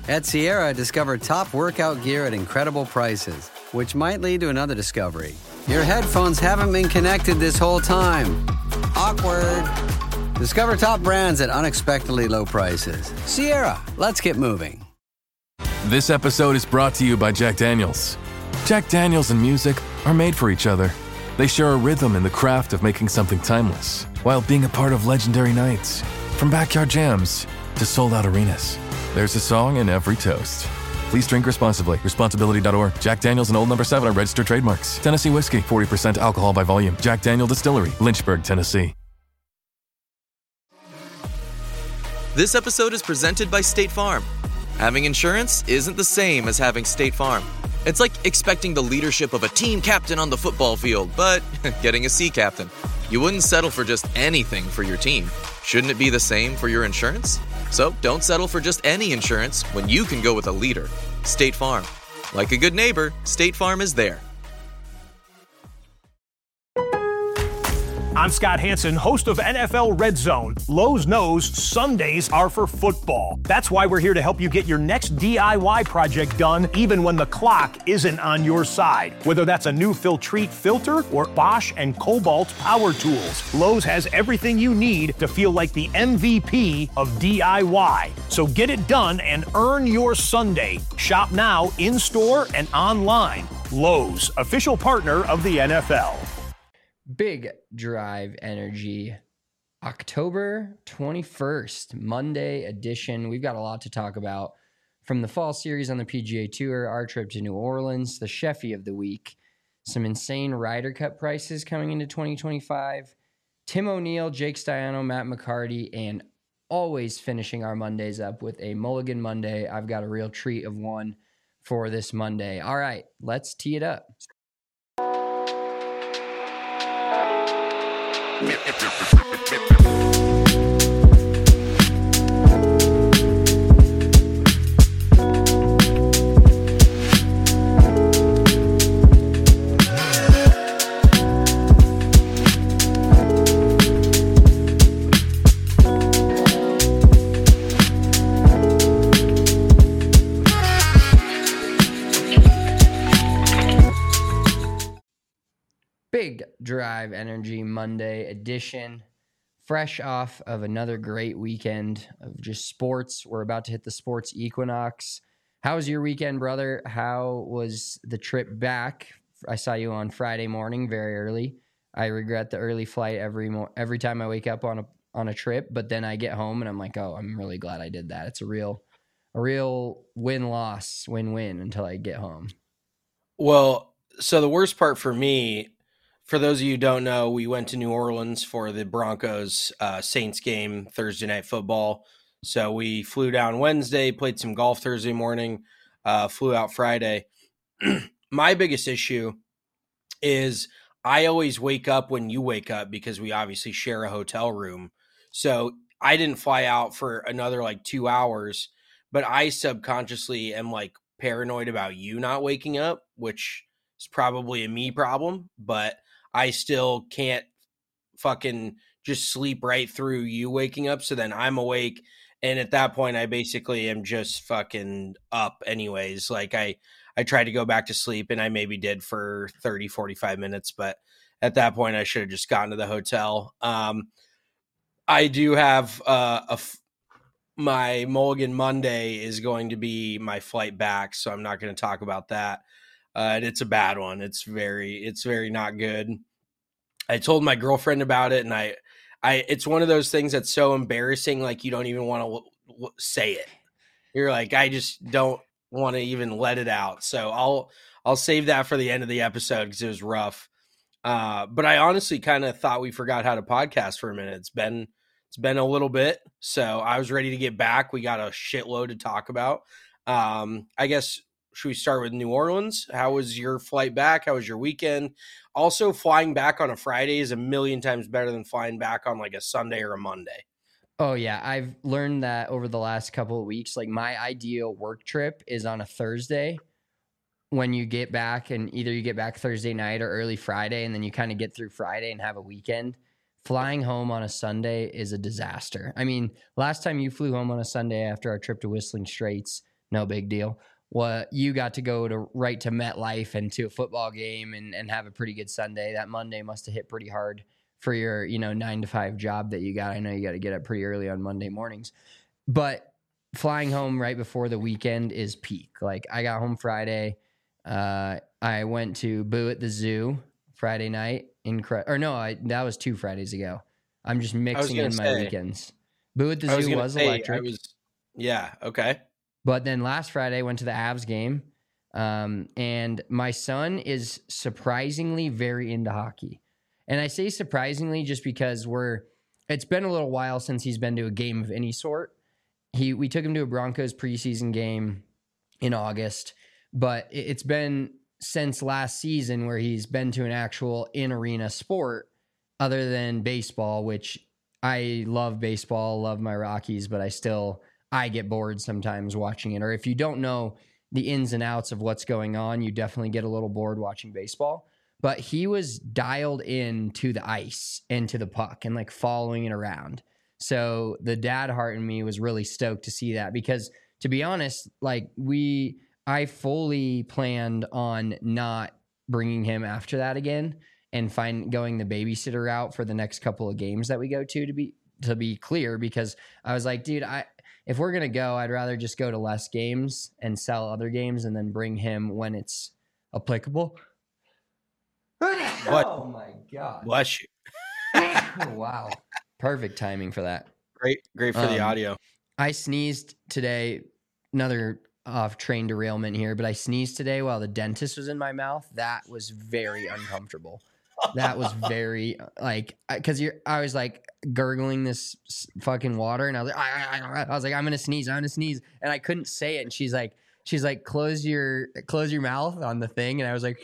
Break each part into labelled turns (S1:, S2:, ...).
S1: At Sierra, discover top workout gear at incredible prices, which might lead to another discovery. Your headphones haven't been connected this whole time. Awkward. Discover top brands at unexpectedly low prices. Sierra, let's get moving.
S2: This episode is brought to you by Jack Daniels. Jack Daniels and music are made for each other. They share a rhythm in the craft of making something timeless, while being a part of legendary nights. From backyard jams to sold-out arenas, there's a song in every toast. Please drink responsibly. Responsibility.org. Jack Daniels and Old No. 7 are registered trademarks. Tennessee whiskey, 40% alcohol by volume. Jack Daniel Distillery, Lynchburg, Tennessee.
S3: This episode is presented by State Farm. Having insurance isn't the same as having State Farm. It's like expecting the leadership of a team captain on the football field, but getting a sea captain. You wouldn't settle for just anything for your team. Shouldn't it be the same for your insurance? So don't settle for just any insurance when you can go with a leader. State Farm. Like a good neighbor, State Farm is there.
S4: I'm Scott Hanson, host of NFL Red Zone. Lowe's knows Sundays are for football. That's why we're here to help you get your next DIY project done, even when the clock isn't on your side. Whether that's a new Filtrete filter or Bosch and Cobalt power tools, Lowe's has everything you need to feel like the MVP of DIY. So get it done and earn your Sunday. Shop now, in-store and online. Lowe's, official partner of the NFL.
S5: Big Drive Energy, October 21st, Monday edition. We've got a lot to talk about from the fall series on the PGA Tour, our trip to New Orleans, the Sheffy of the week, some insane Ryder Cup prices coming into 2025, Tim O'Neill, Jake Stiano, Matt McCarty, and always finishing our Mondays up with a Mulligan Monday. I've got a real treat of one for this Monday. All right, let's tee it up. Big Drive Energy Monday edition, fresh off of another great weekend of just sports. We're about to hit the sports equinox. How was your weekend, brother? How was the trip back? I saw you on Friday morning, very early. I regret the early flight every time I wake up on a trip, but then I get home and I'm like, oh, I'm really glad I did that. It's a real win-loss, win-win until I get home.
S6: Well, so the worst part for me, for those of you who don't know, we went to New Orleans for the Broncos Saints game, Thursday Night Football. So we flew down Wednesday, played some golf Thursday morning, flew out Friday. My biggest issue is I always wake up when you wake up because we obviously share a hotel room. So I didn't fly out for another 2 hours, but I subconsciously am paranoid about you not waking up, which is probably a me problem, but I still can't fucking just sleep right through you waking up. So then I'm awake. And at that point, I basically am just fucking up anyways. I tried to go back to sleep and I maybe did for 30, 45 minutes. But at that point, I should have just gotten to the hotel. I do have my Mulligan Monday is going to be my flight back. So I'm not going to talk about that. And it's a bad one. It's very not good. I told my girlfriend about it, and I it's one of those things that's so embarrassing, you don't even want to say it. You're I just don't want to even let it out. So I'll save that for the end of the episode because it was rough. But I honestly kind of thought we forgot how to podcast for a minute. It's been a little bit, so I was ready to get back. We got a shitload to talk about. I guess. Should we start with New Orleans? How was your flight back? How was your weekend? Also, flying back on a Friday is a million times better than flying back on a Sunday or a Monday.
S5: Oh, yeah. I've learned that over the last couple of weeks. My ideal work trip is on a Thursday when you get back, and either you get back Thursday night or early Friday, and then you kind of get through Friday and have a weekend. Flying home on a Sunday is a disaster. I mean, last time you flew home on a Sunday after our trip to Whistling Straits, no big deal. What you got to go right to MetLife and to a football game and have a pretty good Sunday. That Monday must have hit pretty hard for your 9 to 5 job that you got. I know you got to get up pretty early on Monday mornings, but flying home right before the weekend is peak. Like I got home Friday. I went to Boo at the Zoo Friday night. That was 2 Fridays ago. I'm just mixing in my weekends. Boo at the Zoo was electric.
S6: Yeah. Okay.
S5: But then last Friday, I went to the Avs game, and my son is surprisingly very into hockey. And I say surprisingly just because it's been a little while since he's been to a game of any sort. We took him to a Broncos preseason game in August, but it's been since last season where he's been to an actual in-arena sport other than baseball, which I love baseball, love my Rockies, but I get bored sometimes watching it. Or if you don't know the ins and outs of what's going on, you definitely get a little bored watching baseball. But he was dialed in to the ice and to the puck and like following it around. So the dad heart in me was really stoked to see that because, to be honest, like I fully planned on not bringing him after that again and going the babysitter route for the next couple of games that we go to be clear, because I was like, dude, if we're going to go, I'd rather just go to less games and sell other games and then bring him when it's applicable.
S6: What?
S5: Oh my God.
S6: Bless you.
S5: Wow. Perfect timing for that.
S6: Great for the audio.
S5: I sneezed today. Another off-train derailment here, but I sneezed today while the dentist was in my mouth. That was very uncomfortable. That was very because I was like gurgling this fucking water, and I was like, I'm gonna sneeze, and I couldn't say it. And she's like, close your mouth on the thing, and I was like,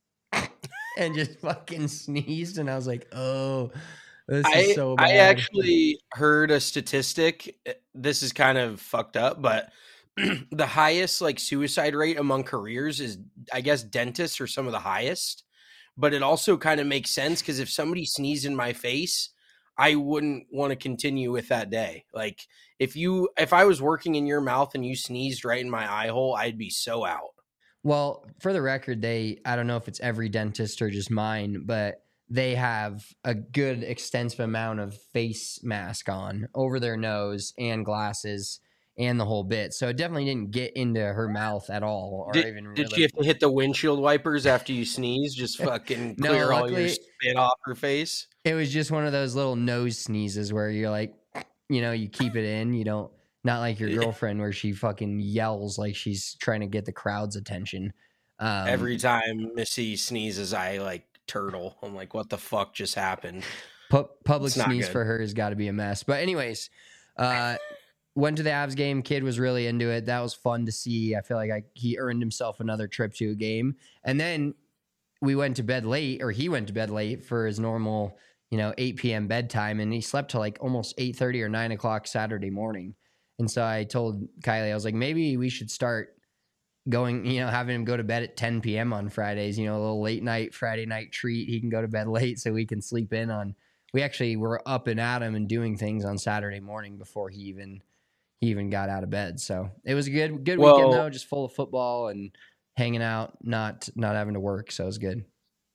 S5: and just fucking sneezed, and I was like, oh, this is so bad.
S6: I actually heard a statistic. This is kind of fucked up, but the highest like suicide rate among careers is, I guess, dentists are some of the highest. But it also kind of makes sense because if somebody sneezed in my face, I wouldn't want to continue with that day. Like if I was working in your mouth and you sneezed right in my eye hole, I'd be so out.
S5: Well, for the record, I don't know if it's every dentist or just mine, but they have a good extensive amount of face mask on over their nose and glasses and the whole bit. So it definitely didn't get into her mouth at all.
S6: Did she have to hit the windshield wipers after you sneeze? Just fucking clear all your spit off her face?
S5: It was just one of those little nose sneezes where you're like, you keep it in. You don't, not like your girlfriend where she fucking yells like she's trying to get the crowd's attention.
S6: Every time Missy sneezes, I like turtle. I'm like, what the fuck just happened?
S5: Public sneeze for her has got to be a mess. But anyways, went to the Avs game. Kid was really into it. That was fun to see. I feel like he earned himself another trip to a game. And then we went to bed late, or he went to bed late for his normal, 8 p.m. bedtime. And he slept till like almost 8:30 or 9 o'clock Saturday morning. And so I told Kylie, I was like, maybe we should start going, having him go to bed at 10 p.m. on Fridays, a little late night Friday night treat. He can go to bed late so we can sleep in on. We actually were up and at him and doing things on Saturday morning before he even got out of bed. So it was a good weekend though, just full of football and hanging out, not having to work. So it was good.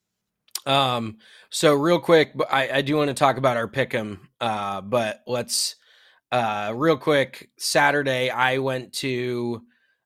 S6: So real quick, I do want to talk about our pick'em. But let's, real quick, Saturday, I went to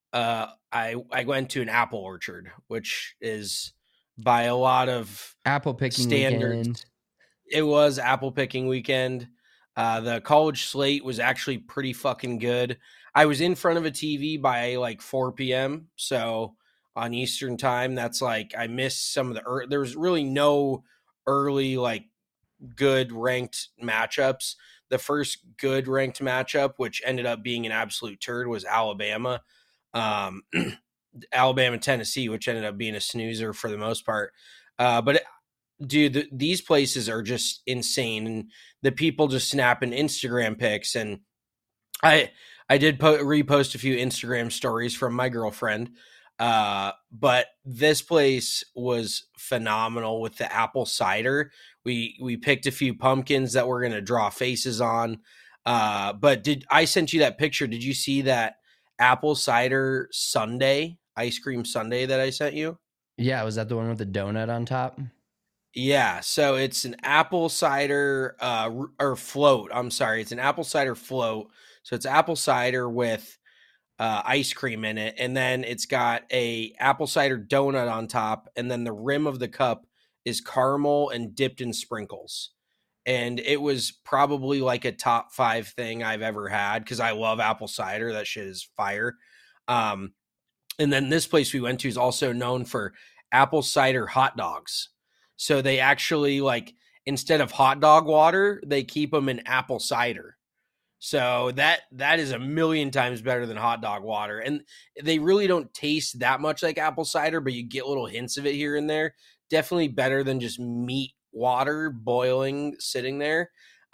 S6: an apple orchard, which is by a lot of
S5: apple picking
S6: standards.
S5: Weekend.
S6: It was apple picking weekend. The college slate was actually pretty fucking good. I was in front of a TV by like 4 p.m. So on Eastern time, that's like, I missed some of there was really no early, like good ranked matchups. The first good ranked matchup, which ended up being an absolute turd, was Alabama, Tennessee, which ended up being a snoozer for the most part. But dude, these places are just insane, and the people just snapping Instagram pics. And I did repost a few Instagram stories from my girlfriend, but this place was phenomenal with the apple cider. We picked a few pumpkins that we're gonna draw faces on. But I sent you that picture? Did you see that apple cider sundae, ice cream sundae that I sent you?
S5: Yeah, was that the one with the donut on top?
S6: Yeah, so it's an apple cider or float. I'm sorry, it's an apple cider float. So it's apple cider with ice cream in it, and then it's got a apple cider donut on top, and then the rim of the cup is caramel and dipped in sprinkles. And it was probably like a top 5 thing I've ever had because I love apple cider. That shit is fire. Um, and then this place we went to is also known for apple cider hot dogs. So they actually like instead of hot dog water, they keep them in apple cider. So that is a million times better than hot dog water. And they really don't taste that much like apple cider, but you get little hints of it here and there. Definitely better than just meat water boiling sitting there.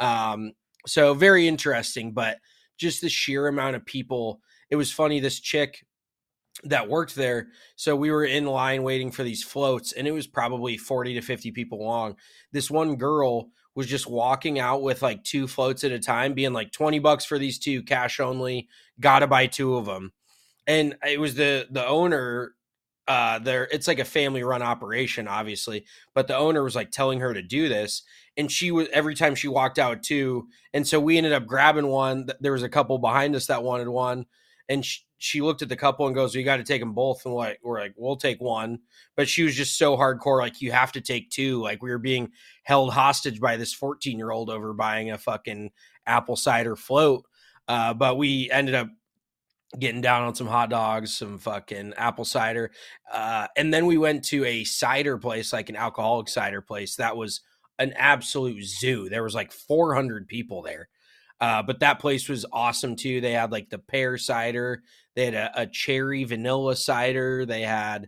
S6: So very interesting, but just the sheer amount of people. It was funny, this chick that worked there. So we were in line waiting for these floats, and it was probably 40 to 50 people long. This one girl was just walking out with like 2 floats at a time, being like $20 for these 2, cash only, gotta buy 2 of them. And it was the owner there. It's like a family run operation, obviously, but the owner was like telling her to do this. And she was, every time she walked out 2. And so we ended up grabbing one. There was a couple behind us that wanted one. And she looked at the couple and goes, "You got to take them both." And we're like, "We'll take one." But she was just so hardcore. Like, you have to take 2. Like, we were being held hostage by this 14-year-old over buying a fucking apple cider float. But we ended up getting down on some hot dogs, some fucking apple cider. And then we went to a cider place, like an alcoholic cider place. That was an absolute zoo. There was like 400 people there. But that place was awesome too. They had like the pear cider. They had a cherry vanilla cider. They had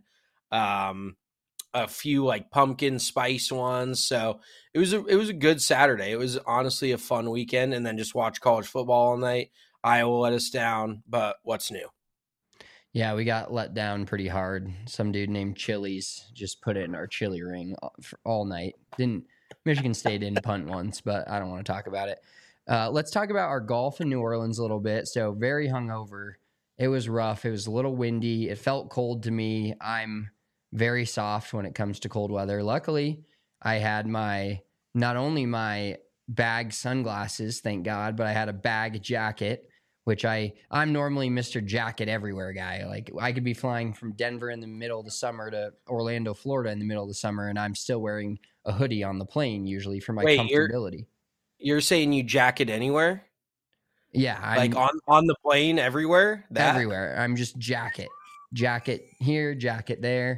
S6: a few like pumpkin spice ones. So it was a good Saturday. It was honestly a fun weekend. And then just watch college football all night. Iowa let us down, but what's new?
S5: Yeah, we got let down pretty hard. Some dude named Chili's just put it in our chili ring all night. Michigan State didn't punt once, but I don't want to talk about it. Let's talk about our golf in New Orleans a little bit. So very hungover. It was rough. It was a little windy. It felt cold to me. I'm very soft when it comes to cold weather. Luckily, I had not only my bag sunglasses, thank God, but I had a bag jacket, which I'm normally Mr. Jacket Everywhere guy. Like, I could be flying from Denver in the middle of the summer to Orlando, Florida in the middle of the summer, and I'm still wearing a hoodie on the plane usually for my comfortability.
S6: You're saying you jacket anywhere?
S5: Yeah.
S6: Like on the plane everywhere?
S5: Everywhere. I'm just jacket here, jacket there.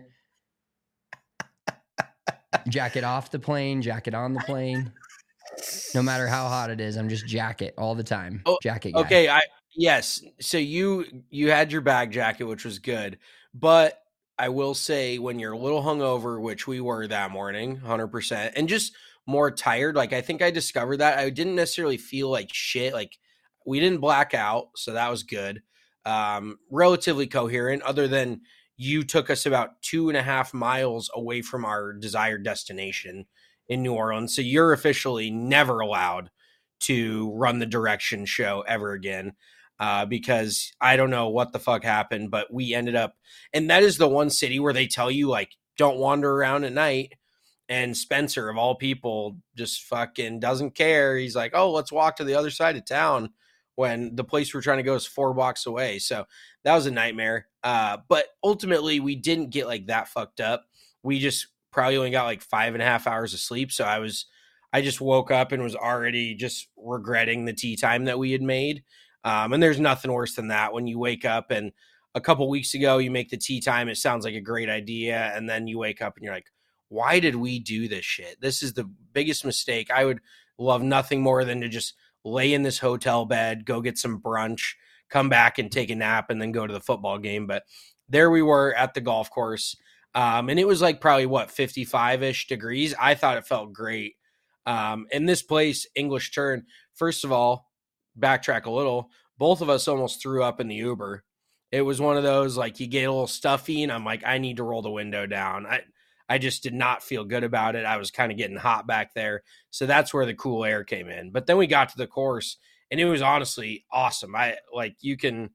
S5: Jacket off the plane, jacket on the plane. No matter how hot it is, I'm just jacket all the time. Jacket guy.
S6: Okay, yes. So you had your bag jacket, which was good. But I will say, when you're a little hungover, which we were that morning, 100%, and just more tired, like, I think I discovered that I didn't necessarily feel like shit. Like, we didn't black out, so that was good. Relatively coherent, other than you took us about 2.5 miles away from our desired destination in New Orleans. So you're officially never allowed to run the direction show ever again, because I don't know what the fuck happened, but we ended up, and that is the one city where they tell you, like, don't wander around at night. And Spencer, of all people, just fucking doesn't care. He's like, "Oh, let's walk to the other side of town," when the place we're trying to go is 4 blocks away. So that was a nightmare. But ultimately, we didn't get like that fucked up. We just probably only got like 5.5 hours of sleep. So I just woke up and was already just regretting the tea time that we had made. And there's nothing worse than that, when you wake up and a couple weeks ago you make the tea time. It sounds like a great idea. And then you wake up and you're like, why did we do this shit? This is the biggest mistake. I would love nothing more than to just lay in this hotel bed, go get some brunch, come back and take a nap, and then go to the football game. But there we were at the golf course. And it was like probably 55-ish degrees. I thought it felt great. And this place, English Turn, first of all, backtrack a little, both of us almost threw up in the Uber. It was one of those, like, you get a little stuffy and I'm like, I need to roll the window down. I just did not feel good about it. I was kind of getting hot back there. So that's where the cool air came in. But then we got to the course and it was honestly awesome. You can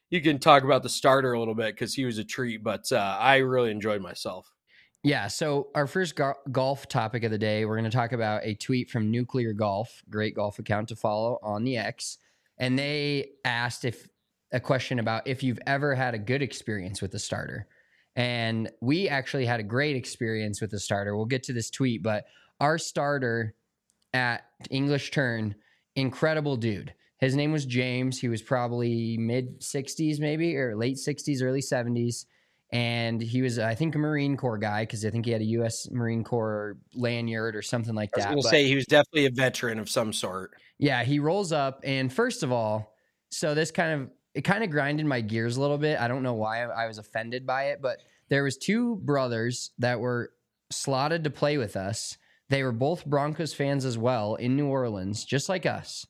S6: you can talk about the starter a little bit because he was a treat, but I really enjoyed myself.
S5: Yeah, so our first golf topic of the day, we're going to talk about a tweet from Nuclear Golf, great golf account to follow on the X. And they asked a question about if you've ever had a good experience with the starter. And we actually had a great experience with the starter. We'll get to this tweet, but our starter at English Turn, incredible dude. His name was James. He was probably mid 60s maybe, or late 60s, early 70s. And he was, I think, a Marine Corps guy because I think he had a U.S. Marine Corps lanyard or something like that.
S6: I was going to say he was definitely a veteran of some sort.
S5: Yeah, he rolls up. And first of all, so this kind of grinded my gears a little bit. I don't know why I was offended by it, but there was two brothers that were slotted to play with us. They were both Broncos fans as well in New Orleans, just like us,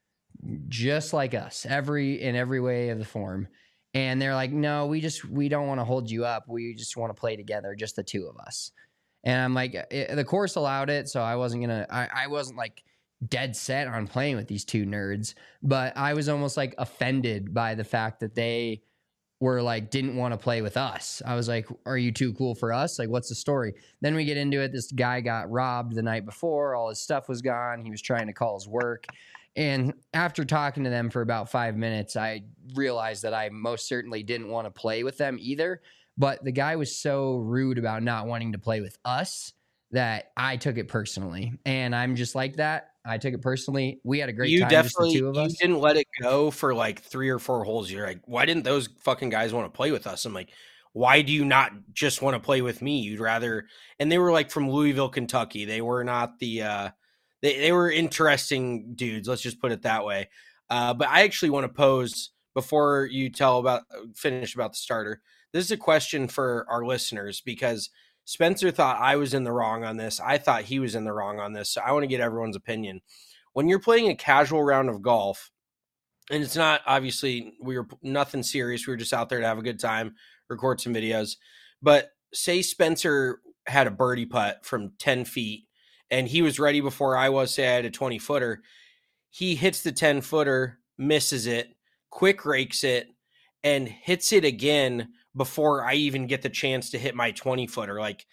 S5: in every way of the form. And they're like, no, we don't want to hold you up. We just want to play together, just the two of us. And I'm like, the course allowed it, so I wasn't like dead set on playing with these two nerds, but I was almost like offended by the fact that they were like, didn't want to play with us. I was like, are you too cool for us? Like, what's the story? Then we get into it. This guy got robbed the night before. All his stuff was gone. He was trying to call his work. And after talking to them for about 5 minutes, I realized that I most certainly didn't want to play with them either. But the guy was so rude about not wanting to play with us that I took it personally. And I'm just like that. I took it personally. We had a great time, just the two of us.
S6: You didn't let it go for like 3 or 4 holes. You're like, why didn't those fucking guys want to play with us? I'm like, why do you not just want to play with me? You'd rather. And they were like from Louisville, Kentucky. They were not the they were interesting dudes. Let's just put it that way. But I actually want to pose, before you finish about the starter, this is a question for our listeners, because Spencer thought I was in the wrong on this. I thought he was in the wrong on this. So I want to get everyone's opinion. When you're playing a casual round of golf, and it's not, obviously, we were nothing serious. We were just out there to have a good time, record some videos. But say Spencer had a birdie putt from 10 feet, and he was ready before I was. Say I had a 20-footer. He hits the 10-footer, misses it, quick rakes it, and hits it again before I even get the chance to hit my 20-footer. Like,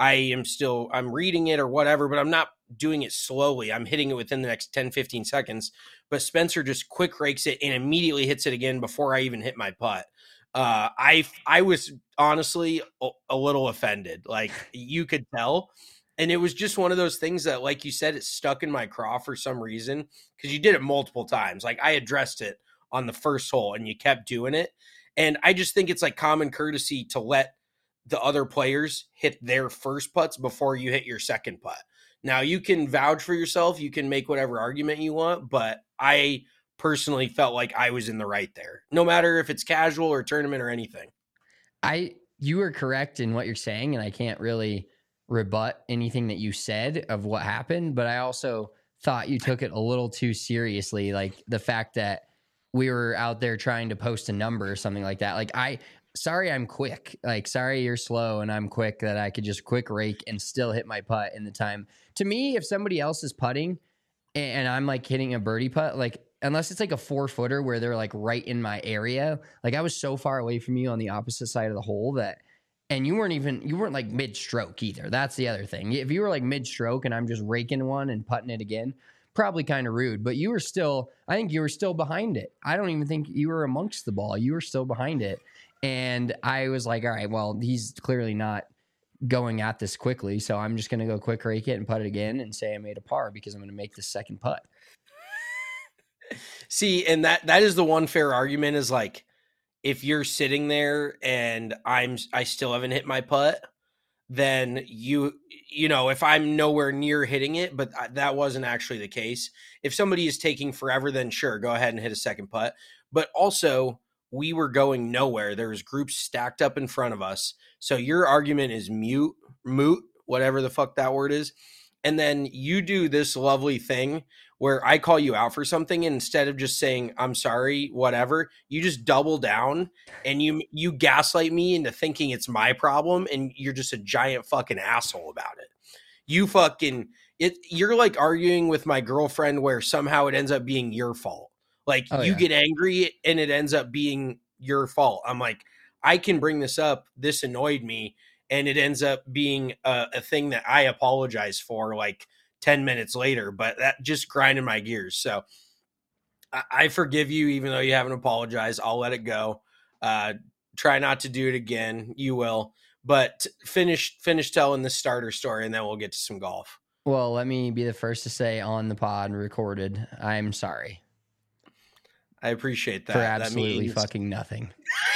S6: I'm reading it or whatever, but I'm not doing it slowly. I'm hitting it within the next 10, 15 seconds. But Spencer just quick rakes it and immediately hits it again before I even hit my putt. I was honestly a little offended. Like, you could tell. And it was just one of those things that, like you said, it stuck in my craw for some reason, because you did it multiple times. Like, I addressed it on the first hole and you kept doing it. And I just think it's like common courtesy to let the other players hit their first putts before you hit your second putt. Now, you can vouch for yourself. You can make whatever argument you want, but I personally felt like I was in the right there, no matter if it's casual or tournament or anything.
S5: You are correct in what you're saying, and I can't really rebut anything that you said of what happened, but I also thought you took it a little too seriously, like the fact that we were out there trying to post a number or something like that. Like, sorry I'm quick. Like, sorry you're slow and I'm quick, that I could just quick rake and still hit my putt in the time. To me, if somebody else is putting and I'm like hitting a birdie putt, like, unless it's like a 4-footer where they're like right in my area, like I was so far away from you on the opposite side of the hole that, and you weren't like mid-stroke either. That's the other thing. If you were like mid-stroke and I'm just raking one and putting it again, probably kind of rude, but I think you were still behind it. I don't even think you were amongst the ball. You were still behind it. And I was like, all right, well, he's clearly not going at this quickly, so I'm just going to go quick rake it and putt it again and say I made a par because I'm going to make the second putt.
S6: See, and that is the one fair argument, is like, if you're sitting there and I still haven't hit my putt, then you know, if I'm nowhere near hitting it, but that wasn't actually the case. If somebody is taking forever, then sure, go ahead and hit a second putt. But also, we were going nowhere. There was groups stacked up in front of us. So your argument is moot, whatever the fuck that word is. And then you do this lovely thing where I call you out for something, and instead of just saying, I'm sorry, whatever, you just double down and you gaslight me into thinking it's my problem, and you're just a giant fucking asshole about it. You're like arguing with my girlfriend where somehow it ends up being your fault. Like, you get angry and it ends up being your fault. I'm like, I can bring this up. This annoyed me. And it ends up being a thing that I apologize for like 10 minutes later, but that just grinded my gears. So I forgive you, even though you haven't apologized. I'll let it go. Try not to do it again. You will, but finish telling the starter story, and then we'll get to some golf.
S5: Well, let me be the first to say on the pod recorded, I'm sorry.
S6: I appreciate that.
S5: For absolutely
S6: that means...
S5: fucking nothing.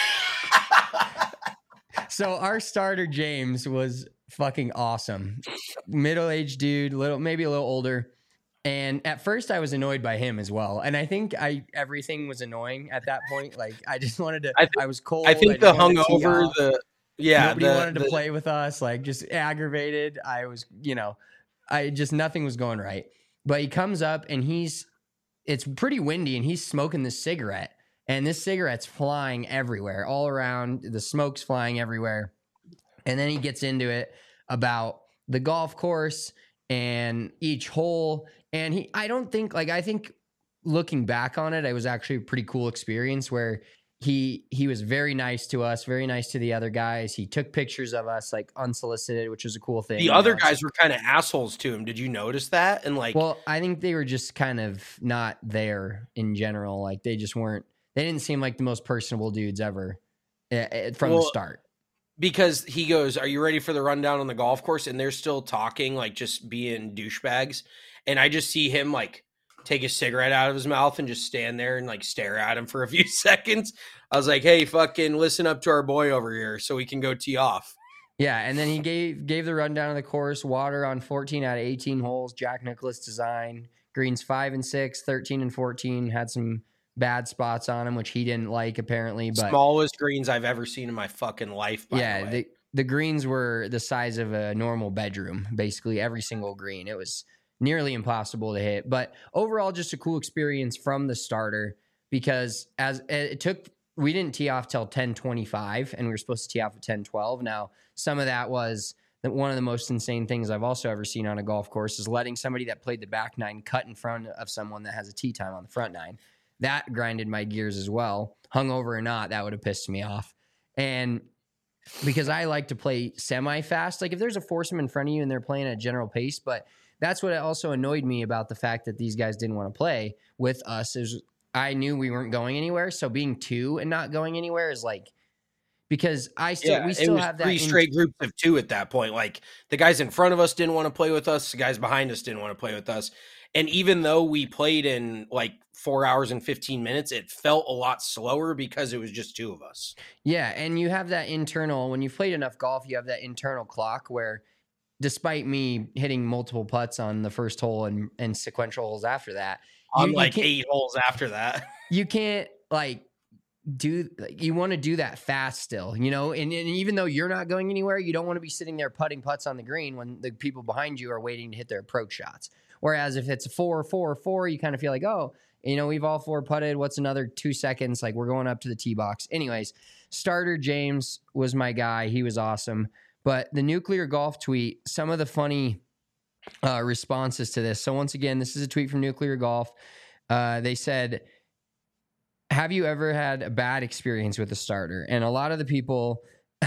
S5: So our starter, James, was fucking awesome. Middle-aged dude, maybe a little older. And at first I was annoyed by him as well. And I think everything was annoying at that point. Like I just wanted to, I was cold.
S6: I think the hungover,
S5: nobody wanted to play with us, like just aggravated. I was, nothing was going right. But he comes up and it's pretty windy and he's smoking this cigarette. And this cigarette's flying everywhere, all around. The smoke's flying everywhere. And then he gets into it about the golf course and each hole. And I think looking back on it, it was actually a pretty cool experience where he was very nice to us, very nice to the other guys. He took pictures of us like unsolicited, which was a cool thing.
S6: The other guys were kind of assholes to him. Did you notice that? And
S5: well, I think they were just kind of not there in general. Like they just weren't. They didn't seem like the most personable dudes ever from the start.
S6: Because he goes, "Are you ready for the rundown on the golf course?" And they're still talking, like just being douchebags. And I just see him like take a cigarette out of his mouth and just stand there and like stare at him for a few seconds. I was like, "Hey, fucking listen up to our boy over here so we can go tee off."
S5: Yeah, and then he gave the rundown of the course. Water on 14 out of 18 holes. Jack Nicklaus design. Greens 5 and 6, 13 and 14. Had some bad spots on him, which he didn't like apparently. But
S6: smallest greens I've ever seen in my fucking life. By the way.
S5: The greens were the size of a normal bedroom, basically every single green. It was nearly impossible to hit. But overall, just a cool experience from the starter because we didn't tee off till 10:25 and we were supposed to tee off at 10:12. Now, some of that was one of the most insane things I've also ever seen on a golf course is letting somebody that played the back nine cut in front of someone that has a tee time on the front nine. That grinded my gears as well. Hungover or not, that would have pissed me off. And because I like to play semi-fast, like if there's a foursome in front of you and they're playing at a general pace, but that's what also annoyed me about the fact that these guys didn't want to play with us is I knew we weren't going anywhere. So being two and not going anywhere is like, because we still have that
S6: three straight groups of two at that point. Like the guys in front of us didn't want to play with us. The guys behind us didn't want to play with us. And even though we played in like 4 hours and 15 minutes, it felt a lot slower because it was just two of us.
S5: Yeah. And you have that internal, when you've played enough golf, you have that internal clock where despite me hitting multiple putts on the first hole and sequential holes after that,
S6: on like 8 holes after that,
S5: you can't like you want to do that fast still, and even though you're not going anywhere, you don't want to be sitting there putting putts on the green when the people behind you are waiting to hit their approach shots. Whereas if it's a 4-4-4, you kind of feel like, oh, we've all 4 putted. What's another 2 seconds? Like we're going up to the tee box. Anyways, starter James was my guy. He was awesome. But the Nuclear Golf tweet, some of the funny responses to this. So once again, this is a tweet from Nuclear Golf. They said, have you ever had a bad experience with a starter? And a lot of the people,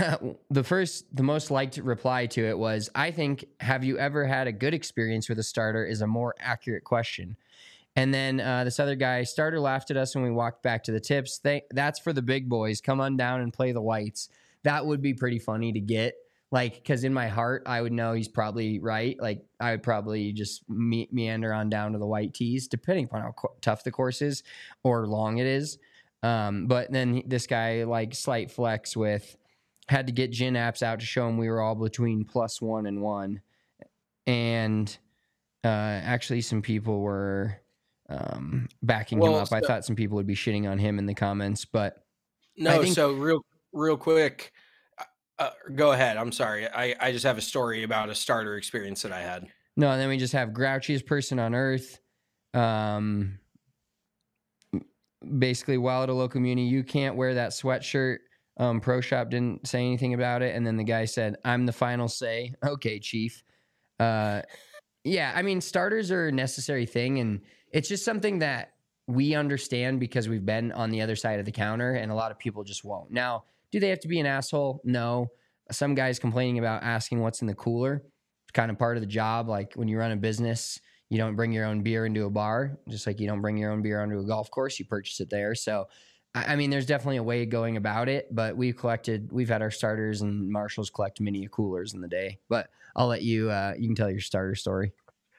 S5: the most liked reply to it was, I think, have you ever had a good experience with a starter is a more accurate question. And then this other guy, starter laughed at us when we walked back to the tips. That's for the big boys. Come on down and play the whites. That would be pretty funny to get. Like, because in my heart, I would know he's probably right. Like, I would probably just meander on down to the white tees, depending upon how tough the course is or long it is. But then this guy, like, slight flex with, had to get gin apps out to show him we were all between +1 and 1. And actually, some people were backing him up. I thought some people would be shitting on him in the comments, but
S6: no. So real quick. Go ahead. I'm sorry. I just have a story about a starter experience that I had.
S5: No, and then we just have grouchiest person on earth. Basically, while at a local muni, you can't wear that sweatshirt. Pro Shop didn't say anything about it. And then the guy said, I'm the final say. Okay, chief. Yeah, I mean, starters are a necessary thing. And it's just something that we understand because we've been on the other side of the counter, and a lot of people just won't. Now, do they have to be an asshole? No. Some guys complaining about asking what's in the cooler. It's kind of part of the job. Like when you run a business, you don't bring your own beer into a bar, just like you don't bring your own beer onto a golf course. You purchase it there. So, I mean, there's definitely a way of going about it, but we've had our starters, and Marshall's collect many coolers in the day. But I'll let you, you can tell your starter story.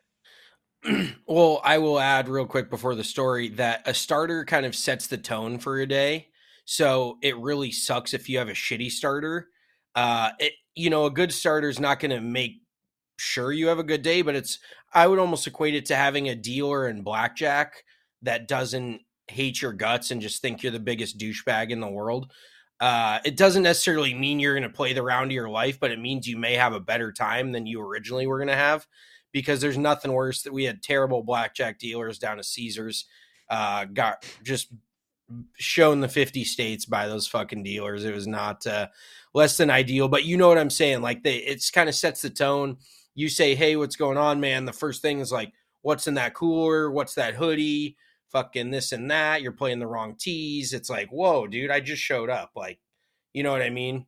S6: Well, I will add real quick before the story that a starter kind of sets the tone for a day. So it really sucks if you have a shitty starter. A good starter is not going to make sure you have a good day, but I would almost equate it to having a dealer in blackjack that doesn't hate your guts and just think you're the biggest douchebag in the world. It doesn't necessarily mean you're going to play the round of your life, but it means you may have a better time than you originally were going to have, because there's nothing worse that we had terrible blackjack dealers down at Caesars, got just shown the 50 states by those fucking dealers. It was not less than ideal, but you know what I'm saying? Like it's kind of sets the tone. You say, hey, what's going on, man? The first thing is like, what's in that cooler? What's that hoodie? Fucking this and that. You're playing the wrong tees. It's like, whoa, dude, I just showed up. Like, you know what I mean?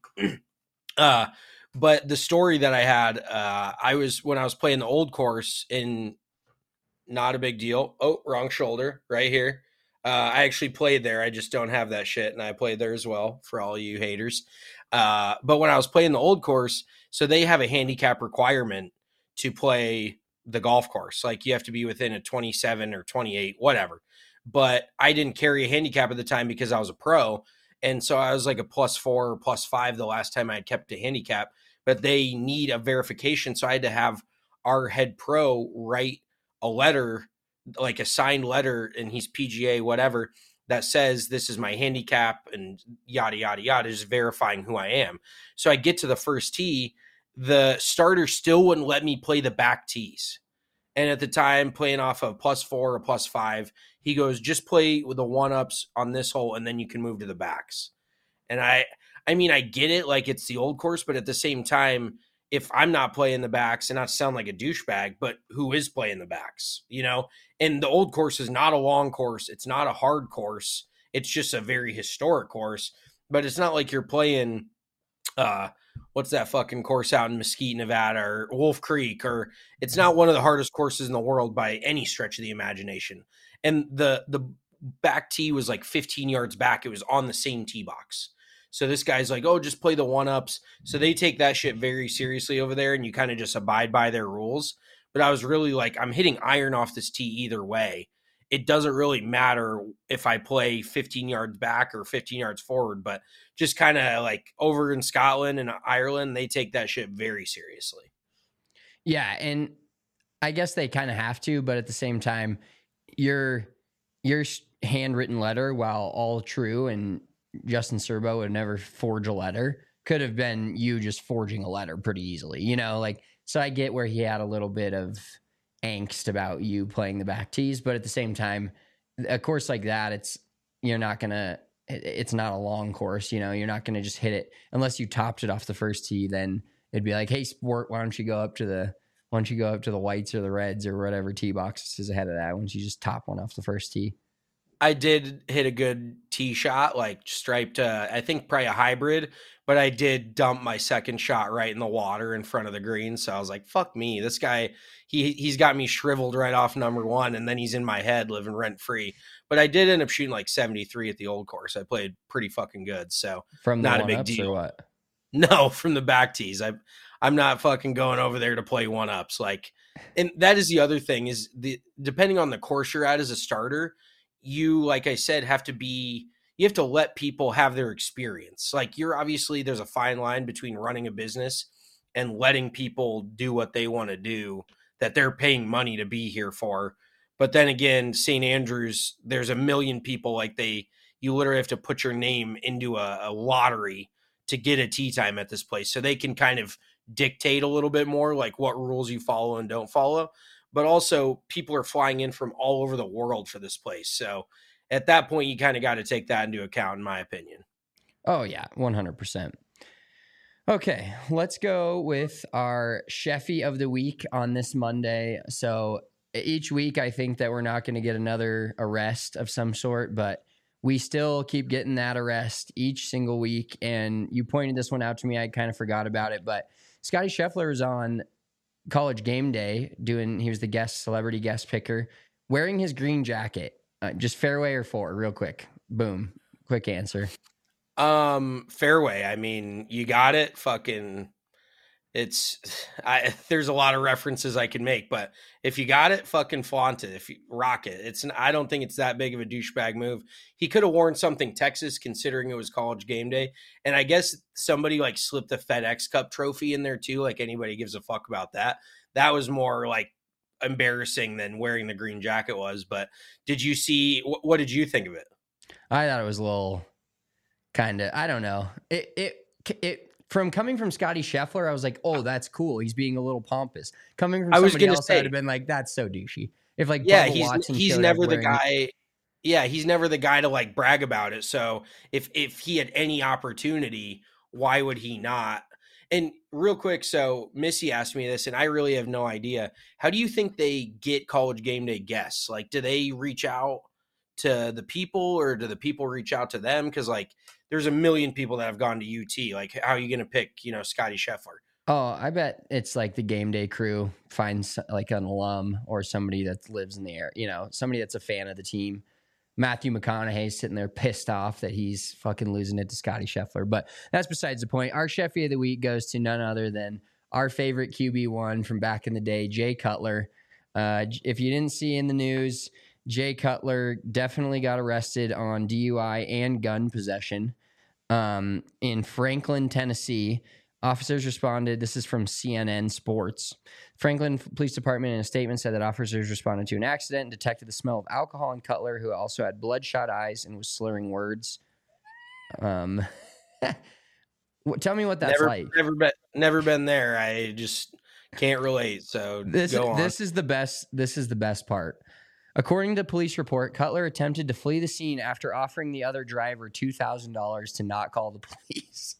S6: But the story that I had, when I was playing the old course in, not a big deal. Oh, wrong shoulder right here. I actually played there. I just don't have that shit. And I played there as well for all you haters. But when I was playing the old course, so they have a handicap requirement to play the golf course. Like you have to be within a 27 or 28, whatever. But I didn't carry a handicap at the time because I was a pro. And so I was like a +4 or +5 the last time I had kept a handicap, but they need a verification. So I had to have our head pro write a letter, like a signed letter, and he's PGA, whatever, that says this is my handicap and yada, yada, yada, just verifying who I am. So I get to the first tee, the starter still wouldn't let me play the back tees. And at the time, playing off a +4 or +5, he goes, just play with the 1-ups on this hole, and then you can move to the backs. And I mean, I get it, like it's the old course, but at the same time, if I'm not playing the backs, and not sound like a douchebag, but who is playing the backs, you know? And the old course is not a long course. It's not a hard course. It's just a very historic course, but it's not like you're playing, what's that fucking course out in Mesquite, Nevada, or Wolf Creek, or it's not one of the hardest courses in the world by any stretch of the imagination. And the back tee was like 15 yards back. It was on the same tee box. So this guy's like, oh, just play the 1-ups. So they take that shit very seriously over there, and you kind of just abide by their rules. But I was really like, I'm hitting iron off this tee either way. It doesn't really matter if I play 15 yards back or 15 yards forward, but just kind of like over in Scotland and Ireland, they take that shit very seriously.
S5: Yeah. And I guess they kind of have to, but at the same time, your handwritten letter, while all true, and Justin Serbo would never forge a letter, could have been you just forging a letter pretty easily, you know, like, so I get where he had a little bit of angst about you playing the back tees, but at the same time, a course like that, it's not a long course, you know, you're not going to just hit it unless you topped it off the first tee. Then it'd be like, hey, sport, why don't you go up to the whites or the reds or whatever tee box is ahead of that? Why don't you just top one off the first tee?
S6: I did hit a good tee shot, like striped, I think probably a hybrid, but I did dump my second shot right in the water in front of the green. So I was like, fuck me. This guy, he's got me shriveled right off number one, and then he's in my head living rent free. But I did end up shooting like 73 at the old course. I played pretty fucking good. So
S5: from the
S6: not a big deal.
S5: Or what?
S6: No, from the back tees. I'm not fucking going over there to play 1-ups. Like, and that is the other thing is depending on the course you're at as a starter, you, like I said, you have to let people have their experience. Like there's a fine line between running a business and letting people do what they want to do that they're paying money to be here for. But then again, St. Andrews, there's a million people, like you literally have to put your name into a lottery to get a tee time at this place. So they can kind of dictate a little bit more like what rules you follow and don't follow. But also people are flying in from all over the world for this place. So at that point, you kind of got to take that into account, in my opinion.
S5: Oh, yeah, 100%. Okay, let's go with our Sheffy of the week on this Monday. So each week I think that we're not going to get another arrest of some sort, but we still keep getting that arrest each single week. And you pointed this one out to me. I kind of forgot about it, but Scotty Scheffler was on College Game Day he was the celebrity guest picker, wearing his green jacket. Just fairway or four, real quick. Boom. Quick answer.
S6: Fairway. I mean, you got it. Fucking, there's a lot of references I can make, but if you got it, fucking flaunt it. If you rock it, I don't think it's that big of a douchebag move. He could have worn something Texas, considering it was College Game Day. And I guess somebody like slipped the FedEx Cup trophy in there too. Like, anybody gives a fuck about that. That was more like embarrassing than wearing the green jacket was. But did you see, what did you think of it?
S5: I thought it was a little kind of, I don't know. It from coming from Scotty Scheffler, I was like, oh, that's cool. He's being a little pompous. Coming from somebody else, I'd have been like, that's so douchey. If like,
S6: yeah,
S5: Bubba Watson
S6: he's never the guy. Yeah, he's never the guy to like brag about it. So if he had any opportunity, why would he not? And real quick, so Missy asked me this, and I really have no idea. How do you think they get College Game Day guests? Like, do they reach out to the people, or do the people reach out to them? Because like, there's a million people that have gone to UT. Like, how are you going to pick, Scotty Scheffler?
S5: Oh, I bet it's like the game day crew finds like an alum or somebody that lives in the area, somebody that's a fan of the team. Matthew McConaughey's sitting there pissed off that he's fucking losing it to Scotty Scheffler. But that's besides the point. Our Sheffy of the week goes to none other than our favorite QB1 from back in the day, Jay Cutler. If you didn't see in the news, Jay Cutler definitely got arrested on DUI and gun possession in Franklin, Tennessee. Officers responded. This is from CNN Sports. Franklin Police Department in a statement said that officers responded to an accident and detected the smell of alcohol in Cutler, who also had bloodshot eyes and was slurring words. Tell me what that's like.
S6: Never been there. I just can't relate. So go on.
S5: This is the best part. According to police report, Cutler attempted to flee the scene after offering the other driver $2,000 to not call the police.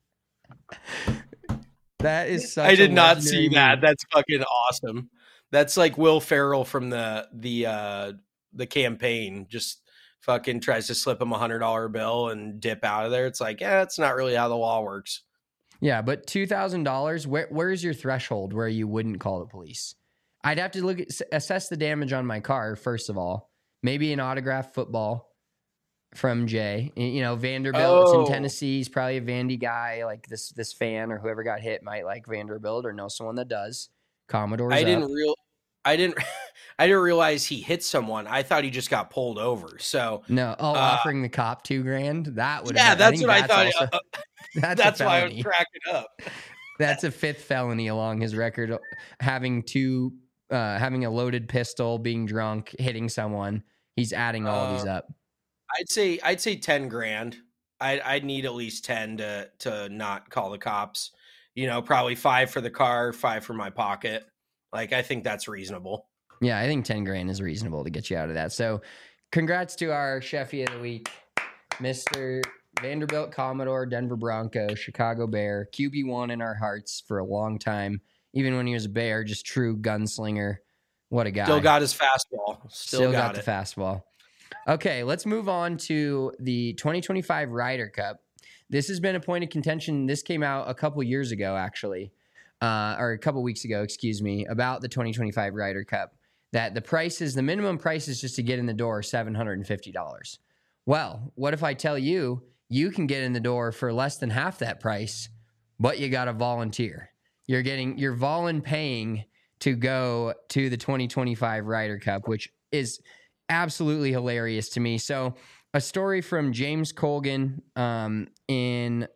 S5: That is such
S6: I did not see
S5: meme.
S6: that. That's fucking awesome. That's like Will Ferrell from the campaign. Just fucking tries to slip him $100 bill and dip out of there. It's like, that's not really how the law works.
S5: Yeah, but $2,000. Where's your threshold where you wouldn't call the police? I'd have to assess the damage on my car first of all. Maybe an autographed football from Jay. Vanderbilt. It's in Tennessee. He's probably a Vandy guy. Like this fan or whoever got hit might like Vanderbilt or know someone that does. Commodore's
S6: I didn't realize he hit someone. I thought he just got pulled over. So
S5: no. Offering the cop $2,000. That would.
S6: Yeah, that's what I thought.
S5: Also,
S6: that's why I was cracking up.
S5: That's a 5th felony along his record. Having a loaded pistol, being drunk, hitting someone. He's adding all these up.
S6: I'd say $10,000. I'd need at least 10 to not call the cops. Probably 5 for the car, 5 for my pocket. Like, I think that's reasonable.
S5: Yeah, I think $10,000 is reasonable to get you out of that. So, congrats to our Sheffy of the week, Mr. Vanderbilt Commodore, Denver Bronco, Chicago Bear, QB1 in our hearts for a long time. Even when he was a Bear, just true gunslinger. What a guy.
S6: Still got his fastball. Still got
S5: the fastball. Okay, let's move on to the 2025 Ryder Cup. This has been a point of contention. This came out a couple years ago, actually, or a couple weeks ago, excuse me, about the 2025 Ryder Cup, that the minimum price is just to get in the door, $750. Well, what if I tell you can get in the door for less than half that price, but you got to volunteer? You're paying to go to the 2025 Ryder Cup, which is absolutely hilarious to me. So a story from James Colgan in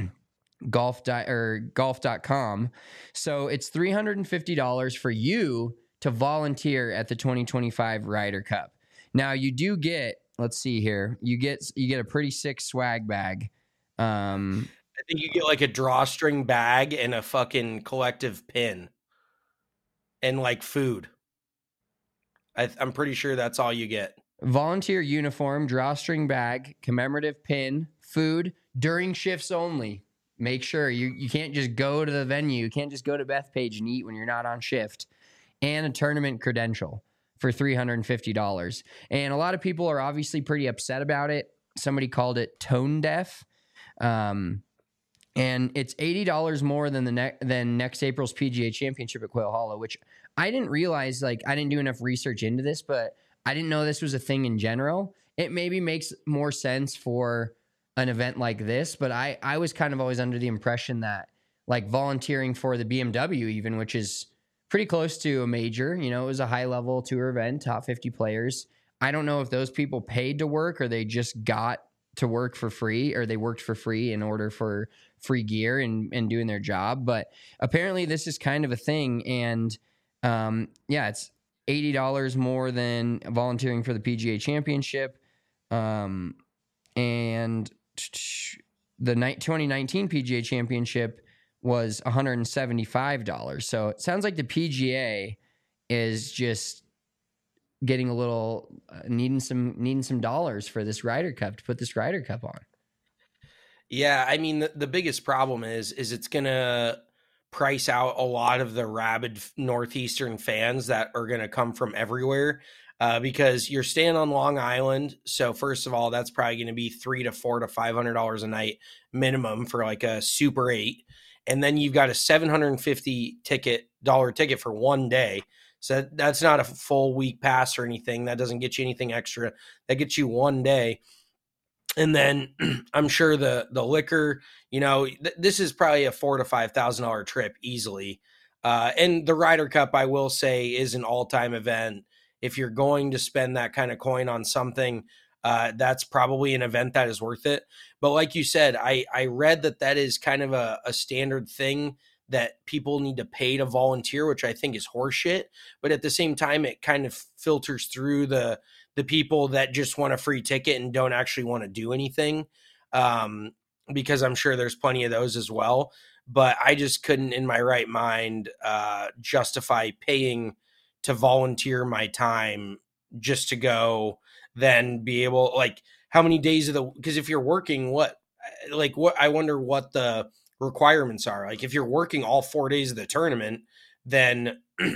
S5: golf.com. So it's $350 for you to volunteer at the 2025 Ryder Cup. Now you do get, let's see here, you get a pretty sick swag bag.
S6: I think you get like a drawstring bag and a fucking collective pin and like food. I'm pretty sure that's all you get.
S5: Volunteer uniform, drawstring bag, commemorative pin, food during shifts only. Make sure you can't just go to the venue. You can't just go to Bethpage and eat when you're not on shift. And a tournament credential. for $350. And a lot of people are obviously pretty upset about it. Somebody called it tone deaf. And it's $80 more than than next April's PGA Championship at Quail Hollow, which I didn't realize. Like, I didn't do enough research into this, but I didn't know this was a thing in general. It maybe makes more sense for an event like this, but I was kind of always under the impression that, like, volunteering for the BMW even, which is pretty close to a major, you know, it was a high level tour event, top 50 players. I don't know if those people paid to work or they just got to work for free, or they worked for free in order for free gear and doing their job. But apparently this is kind of a thing. And it's $80 more than volunteering for the PGA Championship. And the 2019 PGA Championship was $175. So it sounds like the PGA is just getting a little needing some dollars for this Ryder Cup, to put this Ryder Cup on.
S6: Yeah, I mean, the biggest problem is it's going to price out a lot of the rabid Northeastern fans that are going to come from everywhere, because you're staying on Long Island. So first of all, that's probably going to be $300 to $400 to $500 a night minimum for like a Super 8. And then you've got a $750 ticket for one day. So that's not a full week pass or anything. That doesn't get you anything extra. That gets you one day. And then I'm sure the liquor, you know, this is probably a $4,000 to $5,000 trip easily. And the Ryder Cup, I will say, is an all-time event. If you're going to spend that kind of coin on something, that's probably an event that is worth it. But like you said, I read that is kind of a standard thing that people need to pay to volunteer, which I think is horseshit. But at the same time, it kind of filters through the people that just want a free ticket and don't actually want to do anything, because I'm sure there's plenty of those as well. But I just couldn't in my right mind justify paying to volunteer my time just to go then be able, like, how many days of because if you're working, I wonder what the requirements are. Like, if you're working all 4 days of the tournament, then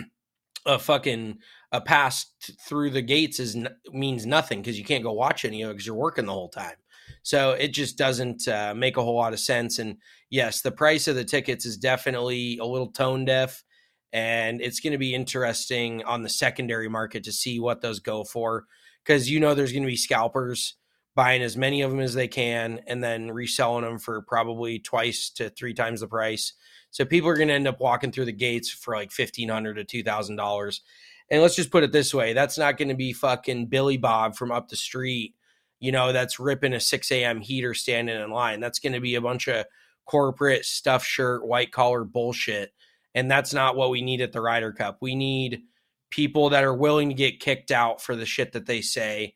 S6: a pass through the gates means nothing, because you can't go watch any of it because you're working the whole time. So it just doesn't make a whole lot of sense. And yes, the price of the tickets is definitely a little tone deaf, and it's going to be interesting on the secondary market to see what those go for, because, you know, there's going to be scalpers buying as many of them as they can and then reselling them for probably 2 to 3 times the price. So people are going to end up walking through the gates for like $1,500 to $2,000. And let's just put it this way. That's not going to be fucking Billy Bob from up the street, you know, that's ripping a 6 a.m. heater standing in line. That's going to be a bunch of corporate stuffed shirt, white collar bullshit. And that's not what we need at the Ryder Cup. We need people that are willing to get kicked out for the shit that they say,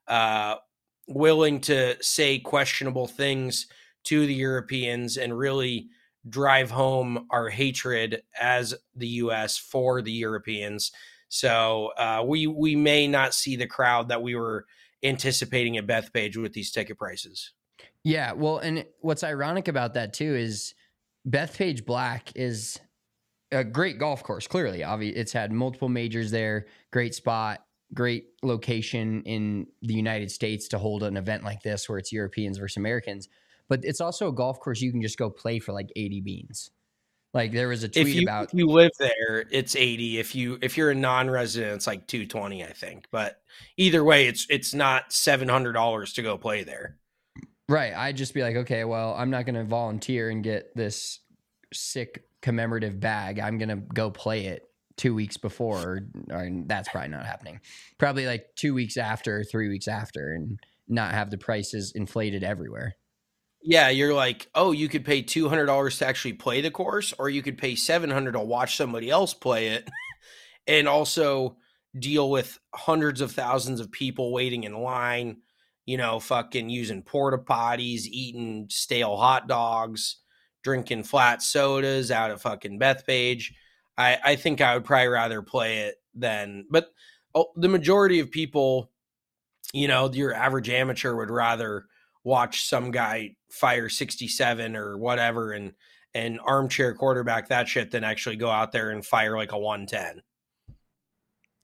S6: willing to say questionable things to the Europeans and really drive home our hatred as the U.S. for the Europeans. So we may not see the crowd that we were anticipating at Bethpage with these ticket prices.
S5: Yeah, well, and what's ironic about that too is Bethpage Black is a great golf course. Clearly, obviously, it's had multiple majors there. Great spot, great location in the United States to hold an event like this where it's Europeans versus Americans. But it's also a golf course you can just go play for like 80 beans. Like, there was a tweet about,
S6: if you live there, it's 80. If you're a non-resident, it's like 220, I think. But either way, it's not $700 to go play there.
S5: Right. I'd just be like, okay, well, I'm not going to volunteer and get this sick commemorative bag. I'm going to go play it 2 weeks before, or that's probably not happening. Probably like 2 weeks after, 3 weeks after, and not have the prices inflated everywhere.
S6: Yeah, you're like, oh, you could pay $200 to actually play the course, or you could pay $700 to watch somebody else play it, and also deal with hundreds of thousands of people waiting in line, you know, fucking using porta potties, eating stale hot dogs, drinking flat sodas out of fucking Bethpage. I think I would probably rather play it than, but the majority of people, you know, your average amateur would rather watch some guy fire 67 or whatever and armchair quarterback that shit than actually go out there and fire like a 110.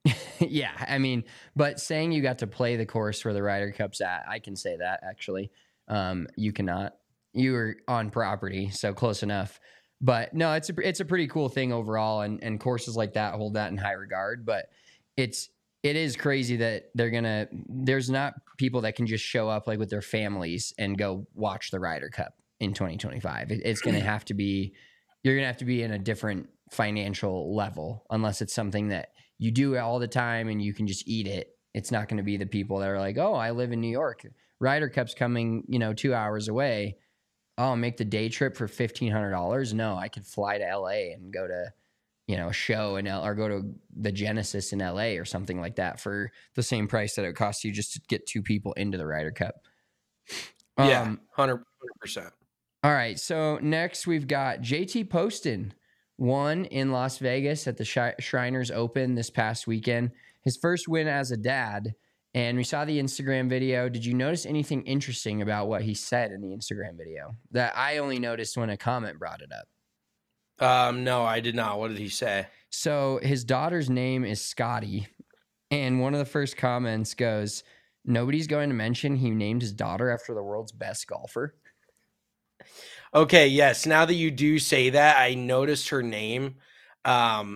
S5: Yeah, I mean, but saying you got to play the course where the Ryder Cup's at, I can say that actually. You cannot. You were on property, so close enough. But no, it's a pretty cool thing overall, and courses like that hold that in high regard. But it is crazy that there's not people that can just show up like with their families and go watch the Ryder Cup in 2025. It's going to have to be, you're going to have to be in a different financial level unless it's something that you do all the time and you can just eat it. It's not going to be the people that are like, oh, I live in New York. Ryder Cup's coming, 2 hours away. Oh, make the day trip for $1,500. No, I could fly to LA and go to, a show or go to the Genesis in LA or something like that for the same price that it costs you just to get two people into the Ryder Cup.
S6: Yeah, 100%.
S5: All right. So next we've got JT Poston. Won in Las Vegas at the Shriners Open this past weekend. His first win as a dad. And we saw the Instagram video. Did you notice anything interesting about what he said in the Instagram video that I only noticed when a comment brought it up?
S6: No, I did not. What did he say?
S5: So his daughter's name is Scotty. And one of the first comments goes, nobody's going to mention he named his daughter after the world's best golfer.
S6: Okay, yes. Now that you do say that, I noticed her name. And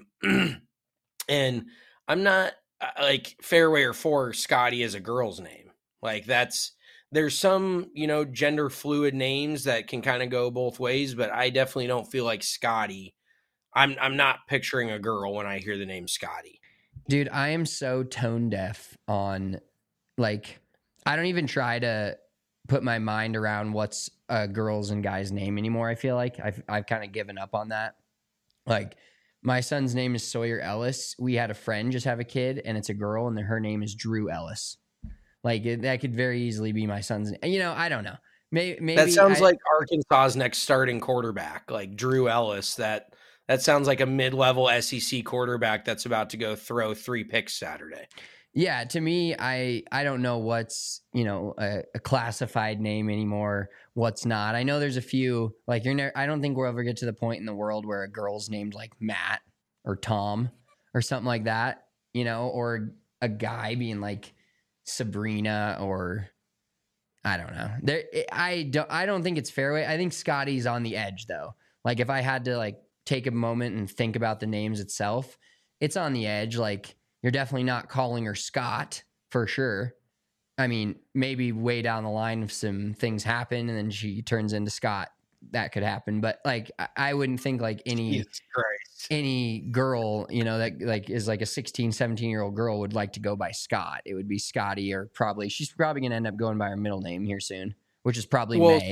S6: I'm not like Fairway or Four Scotty is a girl's name. Like there's some, gender fluid names that can kind of go both ways, but I definitely don't feel like Scotty. I'm not picturing a girl when I hear the name Scotty.
S5: Dude, I am so tone deaf on like, I don't even try to put my mind around what's a girl's and guy's name anymore. I feel like I've kind of given up on that. Like my son's name is Sawyer Ellis. We had a friend just have a kid and it's a girl and her name is Drew Ellis. Like that could very easily be my son's name. I don't know. Maybe
S6: that sounds like Arkansas's next starting quarterback, like Drew Ellis. That sounds like a mid-level SEC quarterback that's about to go throw 3 picks Saturday.
S5: Yeah, to me, I don't know what's, a classified name anymore, what's not. I know there's a few, like I don't think we'll ever get to the point in the world where a girl's named like Matt or Tom or something like that, or a guy being like Sabrina or I don't know. I don't think it's fairway. I think Scotty's on the edge though. Like if I had to like take a moment and think about the names itself, it's on the edge. Like, you're definitely not calling her Scott for sure. I mean, maybe way down the line if some things happen and then she turns into Scott, that could happen. But like, I wouldn't think like any girl, that like is like a 16, 17-year-old girl would like to go by Scott. It would be Scotty or she's probably going to end up going by her middle name here soon, which is probably May.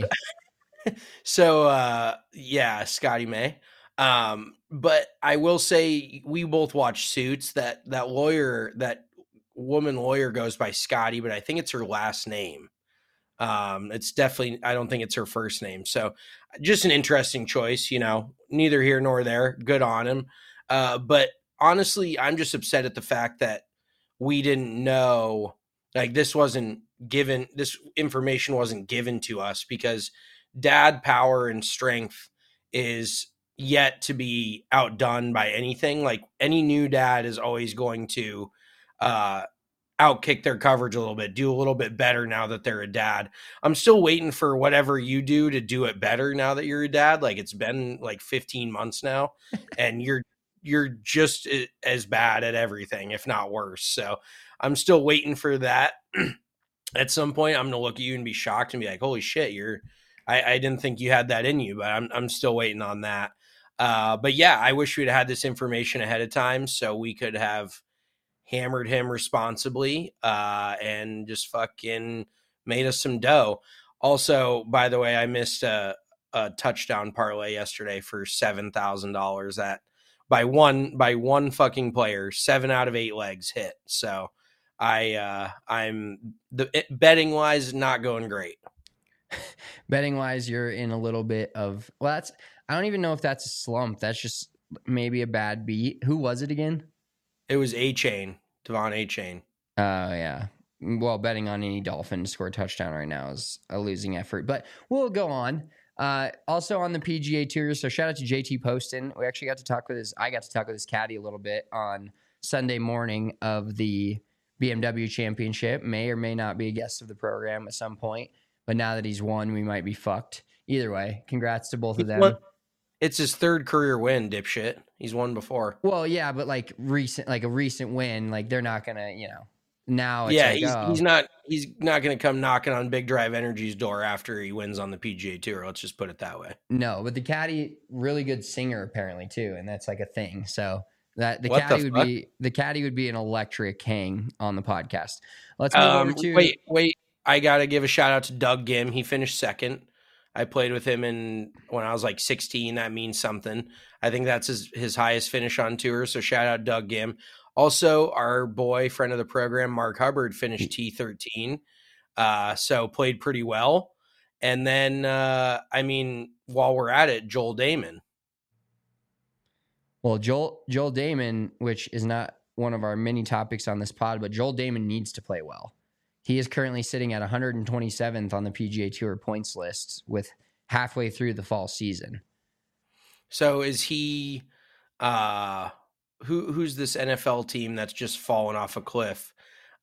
S6: So, yeah, Scotty May. But I will say we both watched Suits. That woman lawyer goes by Scotty, but I think it's her last name. It's definitely, I don't think it's her first name. So just an interesting choice, neither here nor there. Good on him. But honestly, I'm just upset at the fact that we didn't know, like this information wasn't given to us because dad power and strength is yet to be outdone by anything. Like any new dad is always going to outkick their coverage a little bit, do a little bit better now that they're a dad. I'm still waiting for whatever you do to do it better now that you're a dad. Like it's been like 15 months now and you're just as bad at everything, if not worse. So I'm still waiting for that. At some point I'm going to look at you and be shocked and be like, holy shit, I didn't think you had that in you, but I'm still waiting on that. But yeah, I wish we'd had this information ahead of time so we could have hammered him responsibly and just fucking made us some dough. Also, by the way, I missed a touchdown parlay yesterday for $7,000 that by one fucking player, 7 out of 8 legs hit. So I'm betting wise not going great.
S5: Betting wise, you're in a little bit of I don't even know if that's a slump. That's just maybe a bad beat. Who was it again?
S6: It was Devon Achane.
S5: Oh yeah. Well, betting on any Dolphin to score a touchdown right now is a losing effort. But we'll go on. Also on the PGA Tour. So shout out to JT Poston. I got to talk with his caddy a little bit on Sunday morning of the BMW Championship. May or may not be a guest of the program at some point. But now that he's won, we might be fucked. Either way, congrats to both of them.
S6: It's his third career win, dipshit. He's won before.
S5: Well, yeah, but like a recent win, like they're not gonna, now it's
S6: he's not gonna come knocking on Big Drive Energy's door after he wins on the PGA Tour. Let's just put it that way.
S5: No, but the caddy, really good singer apparently too, and that's like a thing. So that the caddy would be an electric hang on the podcast. Let's move over to
S6: wait. I gotta give a shout out to Doug Gim. He finished second. I played with him when I was like 16. That means something. I think that's his highest finish on tour. So shout out Doug Gim. Also, our boy, friend of the program, Mark Hubbard, finished T13. So played pretty well. And then, while we're at it, Joel Damon.
S5: Well, Joel Damon, which is not one of our many topics on this pod, but Joel Damon needs to play well. He is currently sitting at 127th on the PGA Tour points list with halfway through the fall season.
S6: So is he who's this NFL team that's just fallen off a cliff?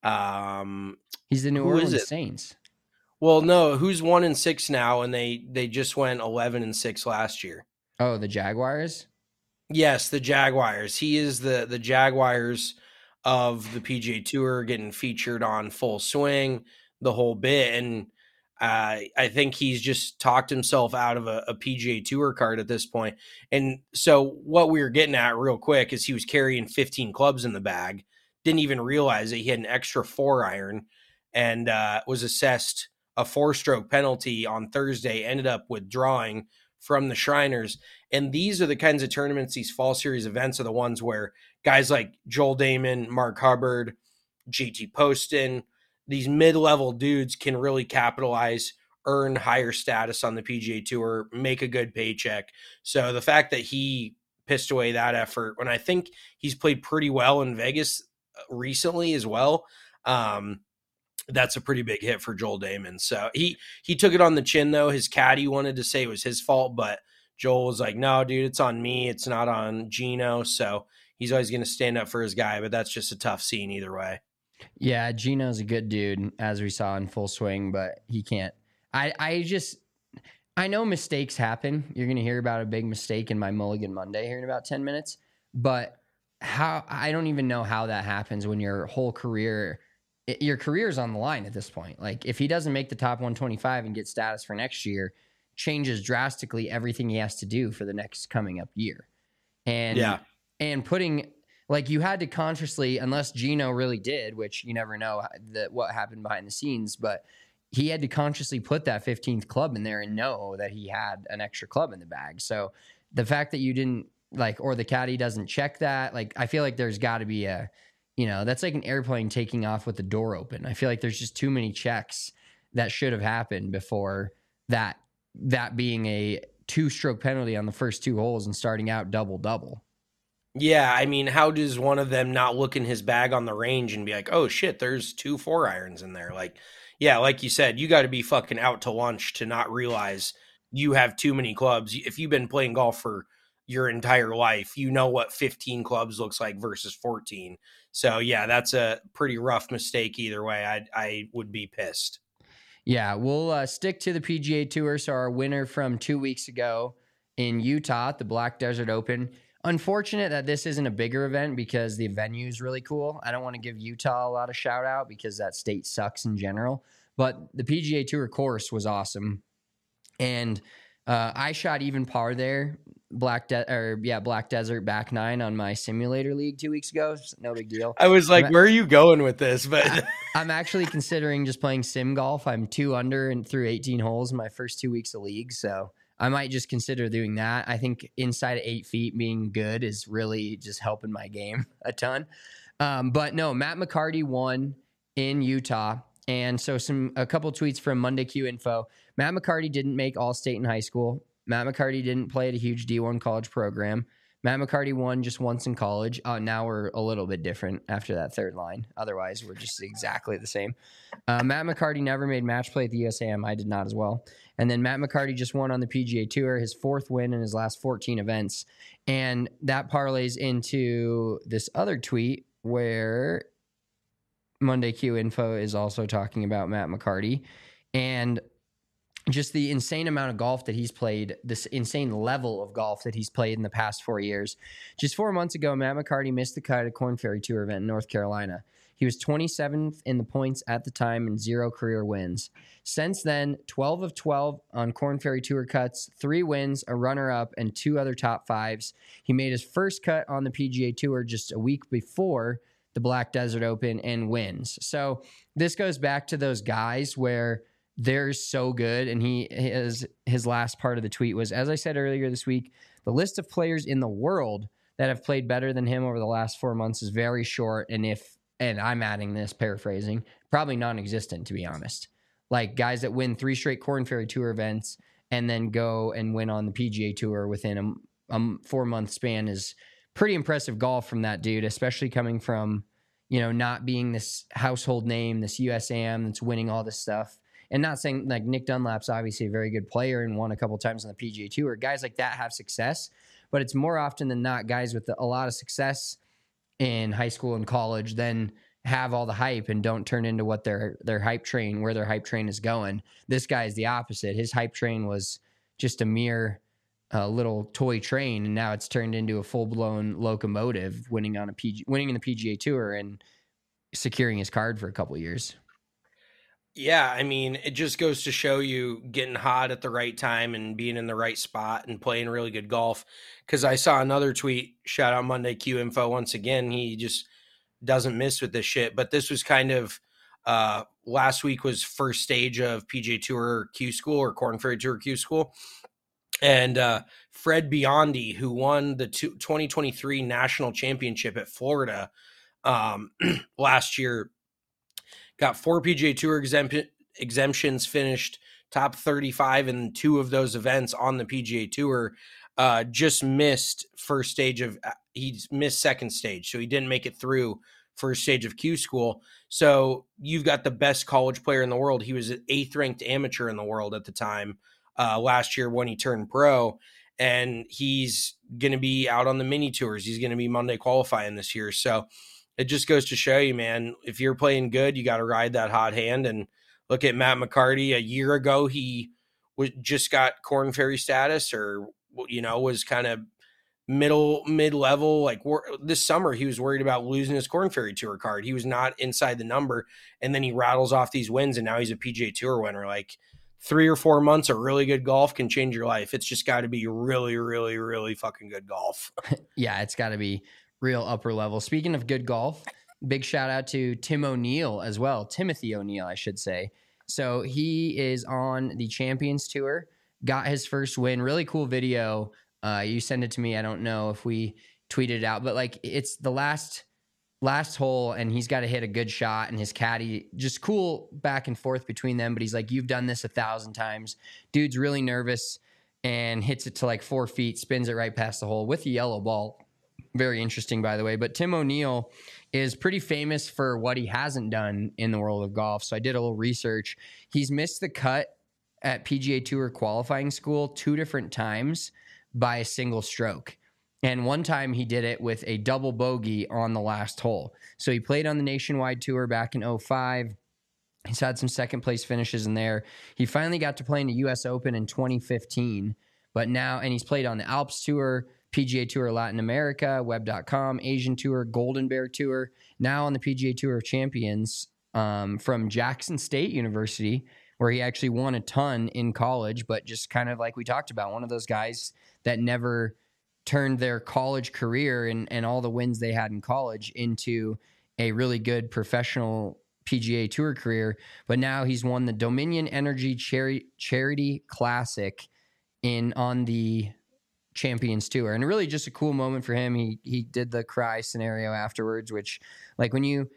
S5: He's the New Orleans Saints.
S6: Well, no, who's 1-6 now, and they just went 11-6 last year.
S5: Oh, the Jaguars?
S6: Yes, the Jaguars. He is the Jaguars of the PGA Tour, getting featured on Full Swing, the whole bit. And I think he's just talked himself out of a PGA Tour card at this point. And so what we were getting at real quick is he was carrying 15 clubs in the bag, didn't even realize that he had an extra 4-iron, and was assessed a 4-stroke penalty on Thursday, ended up withdrawing from the Shriners. And these are the kinds of tournaments, these fall series events are the ones where guys like Joel Damon, Mark Hubbard, JT Poston, these mid-level dudes can really capitalize, earn higher status on the PGA Tour, make a good paycheck. So the fact that he pissed away that effort, when I think he's played pretty well in Vegas recently as well, that's a pretty big hit for Joel Damon. So he took it on the chin, though. His caddy wanted to say it was his fault, but Joel was like, no, dude, it's on me. It's not on Gino. So he's always going to stand up for his guy, but that's just a tough scene either way.
S5: Yeah, Gino's a good dude, as we saw in Full Swing, but he can't. I know mistakes happen. You're going to hear about a big mistake in my Mulligan Monday here in about 10 minutes, but I don't even know how that happens when your whole career – your career's on the line at this point. Like, if he doesn't make the top 125 and get status for next year, changes drastically everything he has to do for the next coming up year. And putting, like, you had to consciously, unless Gino really did, which you never know what happened behind the scenes, but he had to consciously put that 15th club in there and know that he had an extra club in the bag. So the fact that you didn't, or the caddy doesn't check that, I feel like there's got to be that's like an airplane taking off with the door open. I feel like there's just too many checks that should have happened before that being a 2-stroke penalty on the first 2 holes and starting out double-double.
S6: Yeah, I mean, how does one of them not look in his bag on the range and be like, oh shit, there's 2 4-irons in there? Like you said, you got to be fucking out to lunch to not realize you have too many clubs. If you've been playing golf for your entire life, you know what 15 clubs looks like versus 14. So yeah, that's a pretty rough mistake either way. I would be pissed.
S5: Yeah, we'll stick to the PGA Tour. So our winner from 2 weeks ago in Utah, the Black Desert Open. Unfortunate that this isn't a bigger event because the venue is really cool. I don't want to give Utah a lot of shout out because that state sucks in general. But the PGA Tour course was awesome. And I shot even par there. Black Desert back 9 on my simulator league 2 weeks ago. No big deal.
S6: I was like, where are you going with this? But
S5: I'm actually considering just playing sim golf. I'm 2 under and through 18 holes in my first 2 weeks of league. So I might just consider doing that. I think inside of 8 feet being good is really just helping my game a ton. But no, Matt McCarty won in Utah. And so a couple tweets from Monday Q Info. Matt McCarty didn't make All-State in high school. Matt McCarty didn't play at a huge D1 college program. Matt McCarty won just once in college. Now we're a little bit different after that third line. Otherwise, we're just exactly the same. Matt McCarty never made match play at the USAM. I did not as well. And then Matt McCarty just won on the PGA Tour, his 4th win in his last 14 events. And that parlays into this other tweet where Monday Q Info is also talking about Matt McCarty and just the insane amount of golf that he's played, this insane level of golf that he's played in the past 4 years. Just 4 months ago, Matt McCarty missed the cut at Korn Ferry Tour event in North Carolina. He was 27th in the points at the time and 0 career wins. Since then, 12 of 12 on Korn Ferry Tour cuts, 3 wins, a runner-up, and 2 other top fives. He made his first cut on the PGA Tour just a week before the Black Desert Open and wins. So this goes back to those guys where they're so good. And his last part of the tweet was, as I said earlier this week, the list of players in the world that have played better than him over the last 4 months is very short. And I'm adding this, paraphrasing, probably non-existent, to be honest. Like guys that win 3 straight Korn Ferry Tour events and then go and win on the PGA Tour within a 4-month span is pretty impressive golf from that dude, especially coming from, not being this household name, this USAM that's winning all this stuff. And not saying like Nick Dunlap's obviously a very good player and won a couple times on the PGA Tour. Guys like that have success, but it's more often than not guys with a lot of success in high school and college then have all the hype and don't turn into what their hype train is going. This guy is the opposite. His hype train was just a mere little toy train, and now it's turned into a full-blown locomotive, winning in the PGA Tour and securing his card for a couple of years.
S6: Yeah, I mean, it just goes to show you getting hot at the right time and being in the right spot and playing really good golf. Because I saw another tweet, shout out Monday Q Info once again. He just doesn't miss with this shit. But this was kind of last week was first stage of PGA Tour Q School or Korn Ferry Tour Q School. And Fred Biondi, who won the 2023 National Championship at Florida last year, got 4 PGA Tour exemptions, finished top 35 in 2 of those events on the PGA Tour. Just missed he missed second stage, so he didn't make it through first stage of Q School. So you've got the best college player in the world. He was an 8th ranked amateur in the world at the time last year when he turned pro, and he's going to be out on the mini tours. He's going to be Monday qualifying this year. So it just goes to show you, man, if you're playing good, you got to ride that hot hand. And look at Matt McCarty. A year ago, he just got Korn Ferry status, or, was kind of mid-level. Like this summer, he was worried about losing his Korn Ferry Tour card. He was not inside the number. And then he rattles off these wins, and now he's a PGA Tour winner. Like 3 or 4 months of really good golf can change your life. It's just got to be really, really, really fucking good golf.
S5: Yeah, it's got to be real upper level. Speaking of good golf, big shout out to Tim O'Neill as well. Timothy O'Neill, I should say. So he is on the Champions Tour, got his first win. Really cool video. You send it to me. I don't know if we tweeted it out, but like it's the last hole and he's got to hit a good shot, and his caddy, just cool back and forth between them. But he's like, you've done this 1,000 times. Dude's really nervous and hits it to like 4 feet, spins it right past the hole with a yellow ball. Very interesting, by the way. But Tim O'Neill is pretty famous for what he hasn't done in the world of golf. So I did a little research. He's missed the cut at PGA Tour qualifying school 2 different times by a single stroke. And one time he did it with a double bogey on the last hole. So he played on the Nationwide Tour back in 2005. He's had some second place finishes in there. He finally got to play in the U.S. Open in 2015. But now, and he's played on the Alps Tour, PGA Tour Latin America, Web.com, Asian Tour, Golden Bear Tour, now on the PGA Tour of Champions from Jackson State University, where he actually won a ton in college, but just kind of like we talked about, one of those guys that never turned their college career and all the wins they had in college into a really good professional PGA Tour career. But now he's won the Dominion Energy Charity Classic on the Champions Tour, and really just a cool moment for him. He did the cry scenario afterwards, which like when you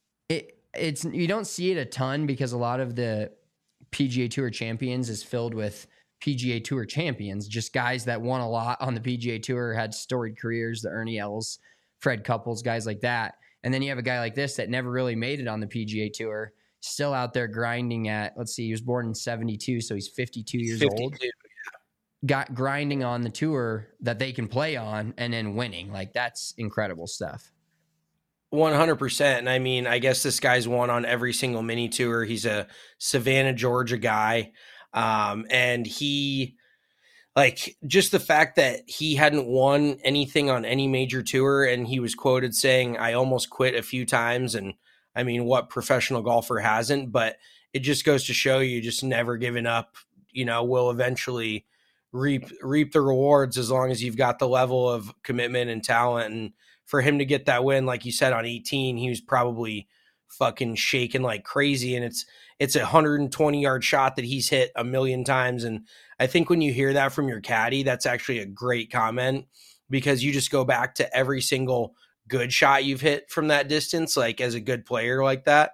S5: don't see it a ton because a lot of the PGA Tour Champions is filled with PGA Tour champions, just guys that won a lot on the PGA Tour, had storied careers, the Ernie Els, Fred Couples, guys like that. And then you have a guy like this that never really made it on the PGA Tour, still out there grinding at, let's see, he was born in 72, so he's 52 years old. Got grinding on the tour that they can play on and then winning. Like, that's incredible stuff.
S6: 100%. And I mean, I guess this guy's won on every single mini tour. He's a Savannah, Georgia guy. And he, like, just the fact that he hadn't won anything on any major tour, and he was quoted saying, I almost quit a few times. And I mean, what professional golfer hasn't? But it just goes to show you just never giving up, will eventually reap the rewards as long as you've got the level of commitment and talent. And for him to get that win, like you said, on 18, he was probably fucking shaking like crazy. And it's a 120-yard shot that he's hit a million times. And I think when you hear that from your caddy, that's actually a great comment, because you just go back to every single good shot you've hit from that distance, like as a good player like that.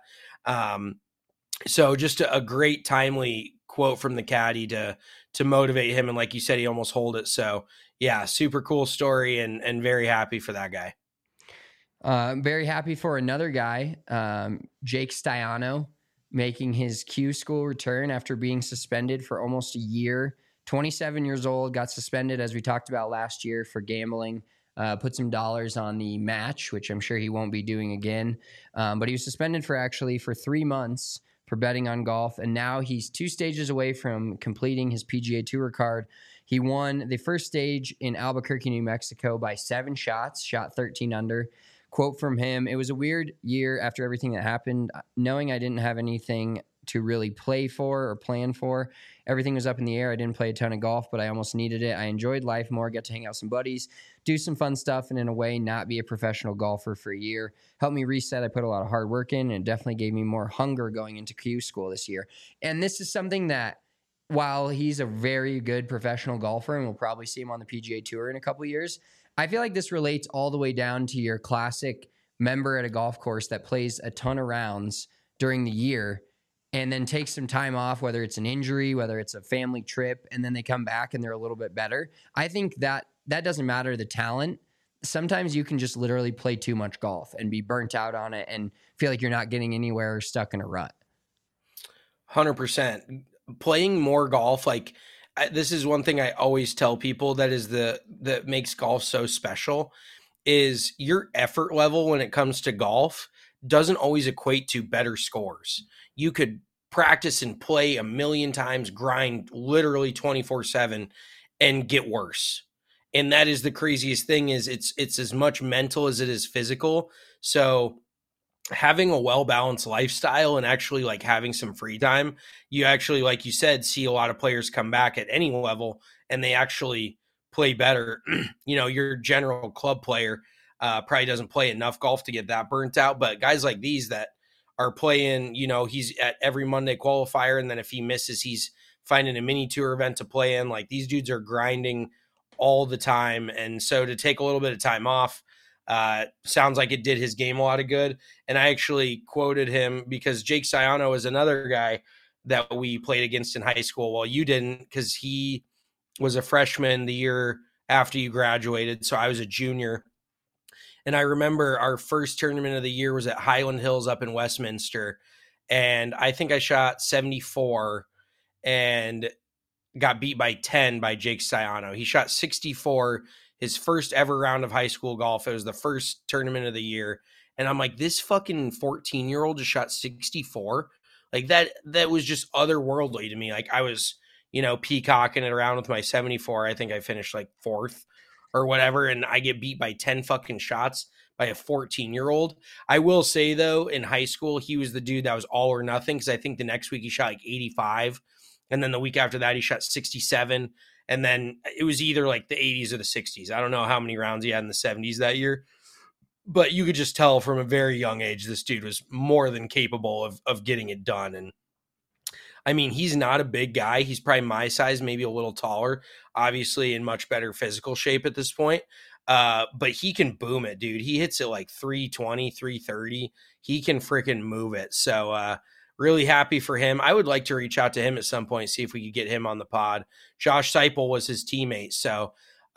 S6: So just a great timely quote from the caddy to motivate him. And like you said, he almost holed it. So yeah, super cool story, and very happy for that guy.
S5: Very happy for another guy, Jake Staiano, making his Q School return after being suspended for almost a year. 27 years old, got suspended, as we talked about last year, for gambling. Put some dollars on the match, which I'm sure he won't be doing again. But he was suspended for 3 months for betting on golf, and now he's 2 stages away from completing his PGA Tour card. He won the first stage in Albuquerque, New Mexico by 7 shots, shot 13 under. Quote from him, "It was a weird year after everything that happened, knowing I didn't have anything to really play for or plan for. Everything was up in the air. I didn't play a ton of golf, but I almost needed it. I enjoyed life more, get to hang out with some buddies, do some fun stuff, and in a way, not be a professional golfer for a year. Helped me reset. I put a lot of hard work in, and it definitely gave me more hunger going into Q School this year." And this is something that, while he's a very good professional golfer, and we'll probably see him on the PGA Tour in a couple of years, I feel like this relates all the way down to your classic member at a golf course that plays a ton of rounds during the year and then takes some time off, whether it's an injury, whether it's a family trip, and then they come back and they're a little bit better. I think that doesn't matter the talent. Sometimes you can just literally play too much golf and be burnt out on it and feel like you're not getting anywhere or stuck in a rut.
S6: 100%. Playing more golf, like, this is one thing I always tell people that makes golf so special, is your effort level when it comes to golf doesn't always equate to better scores. You could practice and play a million times, grind literally 24/7, and get worse. And that is the craziest thing, is it's as much mental as it is physical. So having a well-balanced lifestyle and actually like having some free time, you actually, like you said, see a lot of players come back at any level and they actually play better. Your general club player probably doesn't play enough golf to get that burnt out, but guys like these that are playing, he's at every Monday qualifier, and then if he misses, he's finding a mini tour event to play in. Like, these dudes are grinding all the time. And so to take a little bit of time off, sounds like it did his game a lot of good. And I actually quoted him because Jake Staiano is another guy that we played against in high school. Well, you didn't, because he was a freshman the year after you graduated. So I was a junior. And I remember our first tournament of the year was at Highland Hills up in Westminster. And I think I shot 74 and got beat by 10 by Jake Staiano. He shot 64 his first ever round of high school golf. It was the first tournament of the year. And I'm like, this fucking 14-year-old just shot 64. Like, that was just otherworldly to me. Like, I was, peacocking it around with my 74. I think I finished like 4th or whatever. And I get beat by 10 fucking shots by a 14-year-old. I will say though, in high school, he was the dude that was all or nothing. Cause I think the next week he shot like 85. And then the week after that, he shot 67. And then it was either like the 80s or the 60s. I don't know how many rounds he had in the 70s that year, but you could just tell from a very young age, this dude was more than capable of getting it done. And I mean, he's not a big guy. He's probably my size, maybe a little taller, obviously in much better physical shape at this point. But he can boom it, dude. He hits it like 320, 330. He can freaking move it. So, really happy for him. I would like to reach out to him at some point, see if we could get him on the pod. Josh Seipel was his teammate. So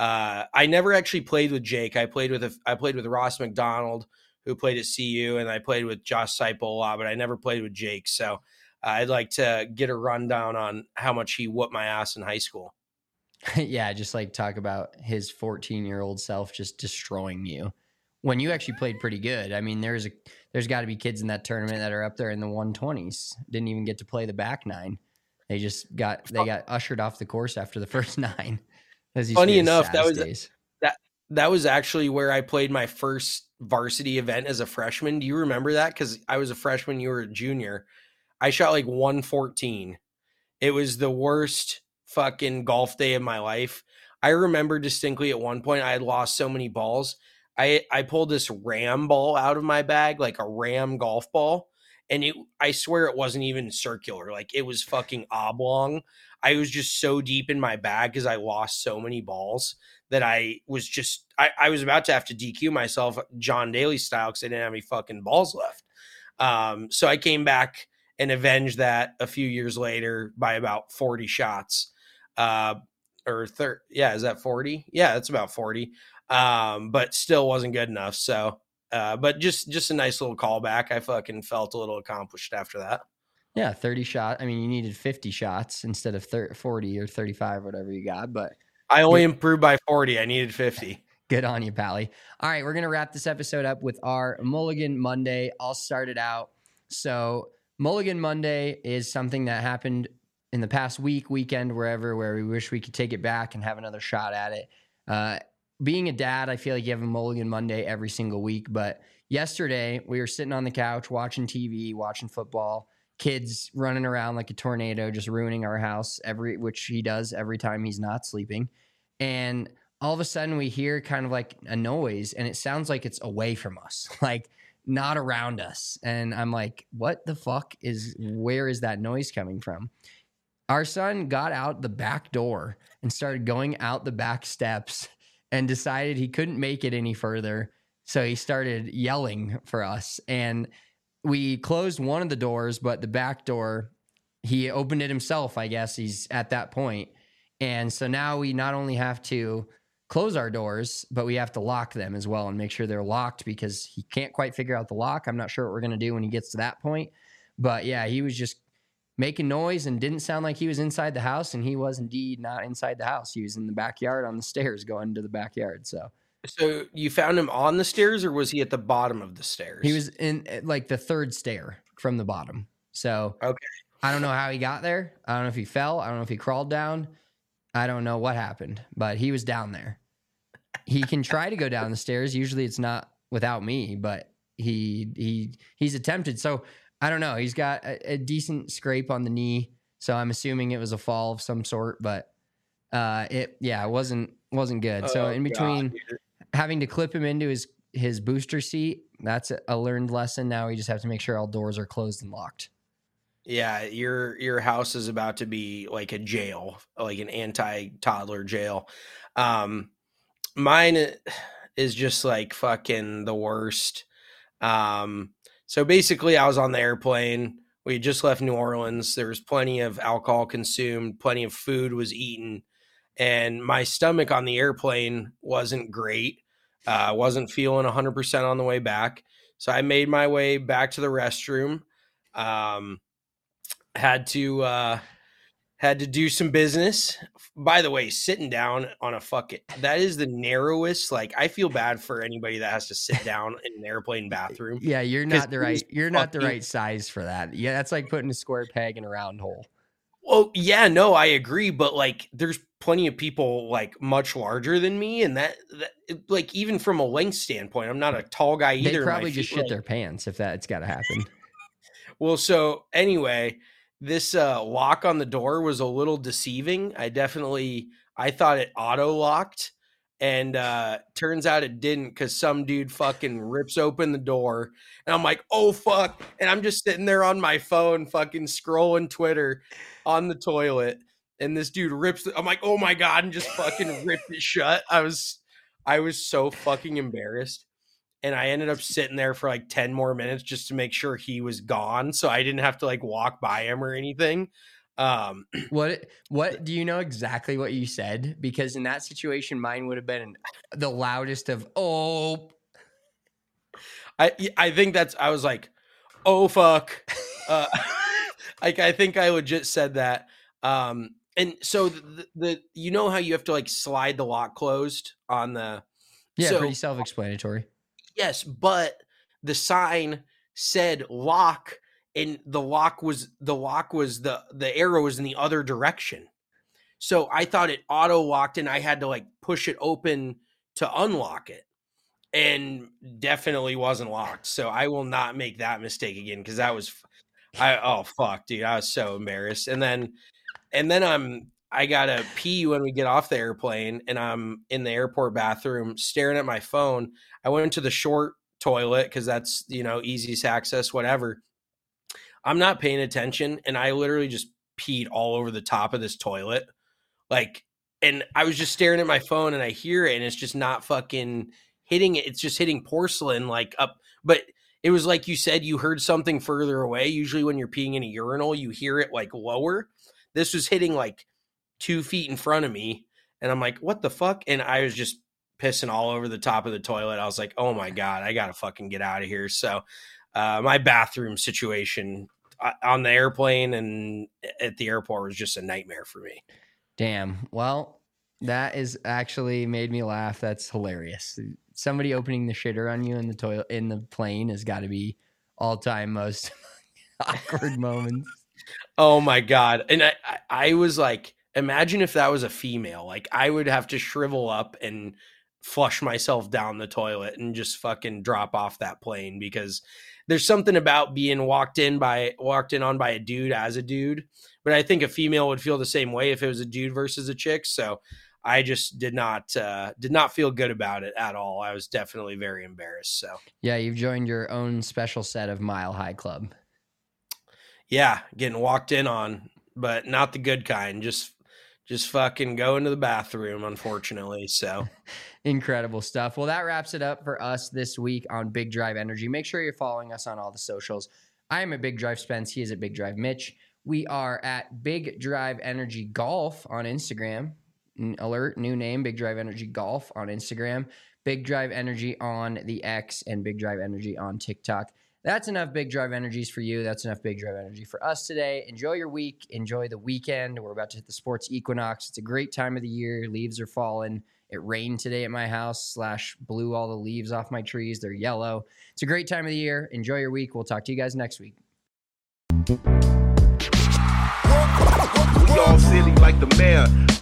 S6: I never actually played with Jake. I played with Ross McDonald, who played at CU, and I played with Josh Seipel a lot, but I never played with Jake. So I'd like to get a rundown on how much he whooped my ass in high school.
S5: Yeah, just like talk about his 14-year-old self just destroying you when you actually played pretty good. I mean, there's got to be kids in that tournament that are up there in the 120s. Didn't even get to play the back nine. They got ushered off the course after the first nine.
S6: Funny enough, that was actually where I played my first varsity event as a freshman. Do you remember that? Because I was a freshman, you were a junior. I shot like 114. It was the worst fucking golf day of my life. I remember distinctly at one point I had lost so many balls. I pulled this Ram ball out of my bag, like a Ram golf ball. And I swear it wasn't even circular. Like it was fucking oblong. I was just so deep in my bag because I lost so many balls that I was about to have to DQ myself John Daly style because I didn't have any fucking balls left. So I came back and avenged that a few years later by about 40 shots. Is that 40? Yeah, that's about 40. But still wasn't good enough. So, but just a nice little callback. I fucking felt a little accomplished after that.
S5: Yeah, 30 shot. I mean, you needed 50 shots instead of 40 or 35, whatever you got. But
S6: I only improved by 40. I needed 50.
S5: Good on you, Pally. All right, we're going to wrap this episode up with our Mulligan Monday. I'll start it out. So Mulligan Monday is something that happened in the past weekend, where we wish we could take it back and have another shot at it. Being a dad, I feel like you have a Mulligan Monday every single week. But yesterday, we were sitting on the couch watching TV, watching football, kids running around like a tornado, just ruining our house, which he does every time he's not sleeping. And all of a sudden, we hear kind of like a noise, and it sounds like it's away from us, like not around us. And I'm like, what the fuck where is that noise coming from? Our son got out the back door and started going out the back steps and decided he couldn't make it any further. So he started yelling for us. And we closed one of the doors, but the back door, he opened it himself, I guess. He's at that point. And so now we not only have to close our doors, but we have to lock them as well and make sure they're locked because he can't quite figure out the lock. I'm not sure what we're going to do when he gets to that point. But yeah, he was just making noise and didn't sound like he was inside the house, and he was indeed not inside the house. He was in the backyard on the stairs going to the backyard. So
S6: you found him on the stairs, or was he at the bottom of the stairs?
S5: He was in like the third stair from the bottom. So
S6: okay.
S5: I don't know how he got there. I don't know if he fell. I don't know if he crawled down. I don't know what happened, but he was down there. He can try to go down the stairs. Usually it's not without me, but he's attempted. So I don't know. He's got a decent scrape on the knee, so I'm assuming it was a fall of some sort. But it wasn't good. So in between having to clip him into his booster seat, that's a learned lesson. Now we just have to make sure all doors are closed and locked.
S6: Yeah, your house is about to be like a jail, like an anti-toddler jail. Mine is just like fucking the worst. So basically, I was on the airplane. We had just left New Orleans. There was plenty of alcohol consumed, plenty of food was eaten, and my stomach on the airplane wasn't great. Wasn't feeling 100% on the way back. So I made my way back to the restroom. Had to do some business. By the way, sitting down on that is the narrowest. Like, I feel bad for anybody that has to sit down in an airplane bathroom.
S5: Yeah, you're not the right size for that. Yeah, that's like putting a square peg in a round hole.
S6: Well, yeah, no, I agree, but like, there's plenty of people like much larger than me, and that like, even from a length standpoint, I'm not a tall guy either.
S5: They probably just shit their pants if that's got to happen.
S6: Well, so anyway, this lock on the door was a little deceiving. I thought it auto locked, and turns out it didn't, because some dude fucking rips open the door, and I'm like, oh fuck, and I'm just sitting there on my phone fucking scrolling Twitter on the toilet, and this dude I'm like, oh my god, and just fucking ripped it shut. I was so fucking embarrassed. And I ended up sitting there for like 10 more minutes just to make sure he was gone, so I didn't have to like walk by him or anything.
S5: What do you know exactly what you said? Because in that situation, mine would have been the loudest of oh.
S6: I think I was like, oh fuck. Like, I think I legit said that. And so the you know how you have to like slide the lock closed on the
S5: pretty self-explanatory.
S6: Yes, but the sign said lock, and the arrow was in the other direction. So I thought it auto locked, and I had to like push it open to unlock it, and definitely wasn't locked. So I will not make that mistake again, because that was, oh fuck, dude, I was so embarrassed. And then I gotta pee when we get off the airplane, and I'm in the airport bathroom staring at my phone. I went to the short toilet because that's, easiest access, whatever. I'm not paying attention, and I literally just peed all over the top of this toilet. Like, and I was just staring at my phone, and I hear it, and it's just not fucking hitting it. It's just hitting porcelain, like up. But it was like you said, you heard something further away. Usually when you're peeing in a urinal, you hear it like lower. This was hitting like 2 feet in front of me, and I'm like, what the fuck? And I was just pissing all over the top of the toilet. I was like, oh my God, I gotta fucking get out of here. So my bathroom situation on the airplane and at the airport was just a nightmare for me.
S5: Damn. Well, that is actually made me laugh. That's hilarious. Somebody opening the shitter on you in the toilet in the plane has got to be all-time most awkward moments.
S6: Oh my God. And I was like, imagine if that was a female. Like, I would have to shrivel up and flush myself down the toilet and just fucking drop off that plane, because there's something about being walked in on by a dude as a dude. But I think a female would feel the same way if it was a dude versus a chick. So I just did not feel good about it at all. I was definitely very embarrassed. So
S5: yeah, you've joined your own special set of Mile High Club.
S6: Yeah, getting walked in on, but not the good kind. Just fucking go into the bathroom, unfortunately. So
S5: incredible stuff. Well, that wraps it up for us this week on Big Drive Energy. Make sure you're following us on all the socials. I am at Big Drive Spence. He is at Big Drive Mitch. We are at Big Drive Energy Golf on Instagram. Alert, new name, Big Drive Energy Golf on Instagram. Big Drive Energy on the X, and Big Drive Energy on TikTok. That's enough Big Drive Energies for you. That's enough Big Drive Energy for us today. Enjoy your week. Enjoy the weekend. We're about to hit the sports equinox. It's a great time of the year. Leaves are falling. It rained today at my house / blew all the leaves off my trees. They're yellow. It's a great time of the year. Enjoy your week. We'll talk to you guys next week.
S7: We all silly like the mayor.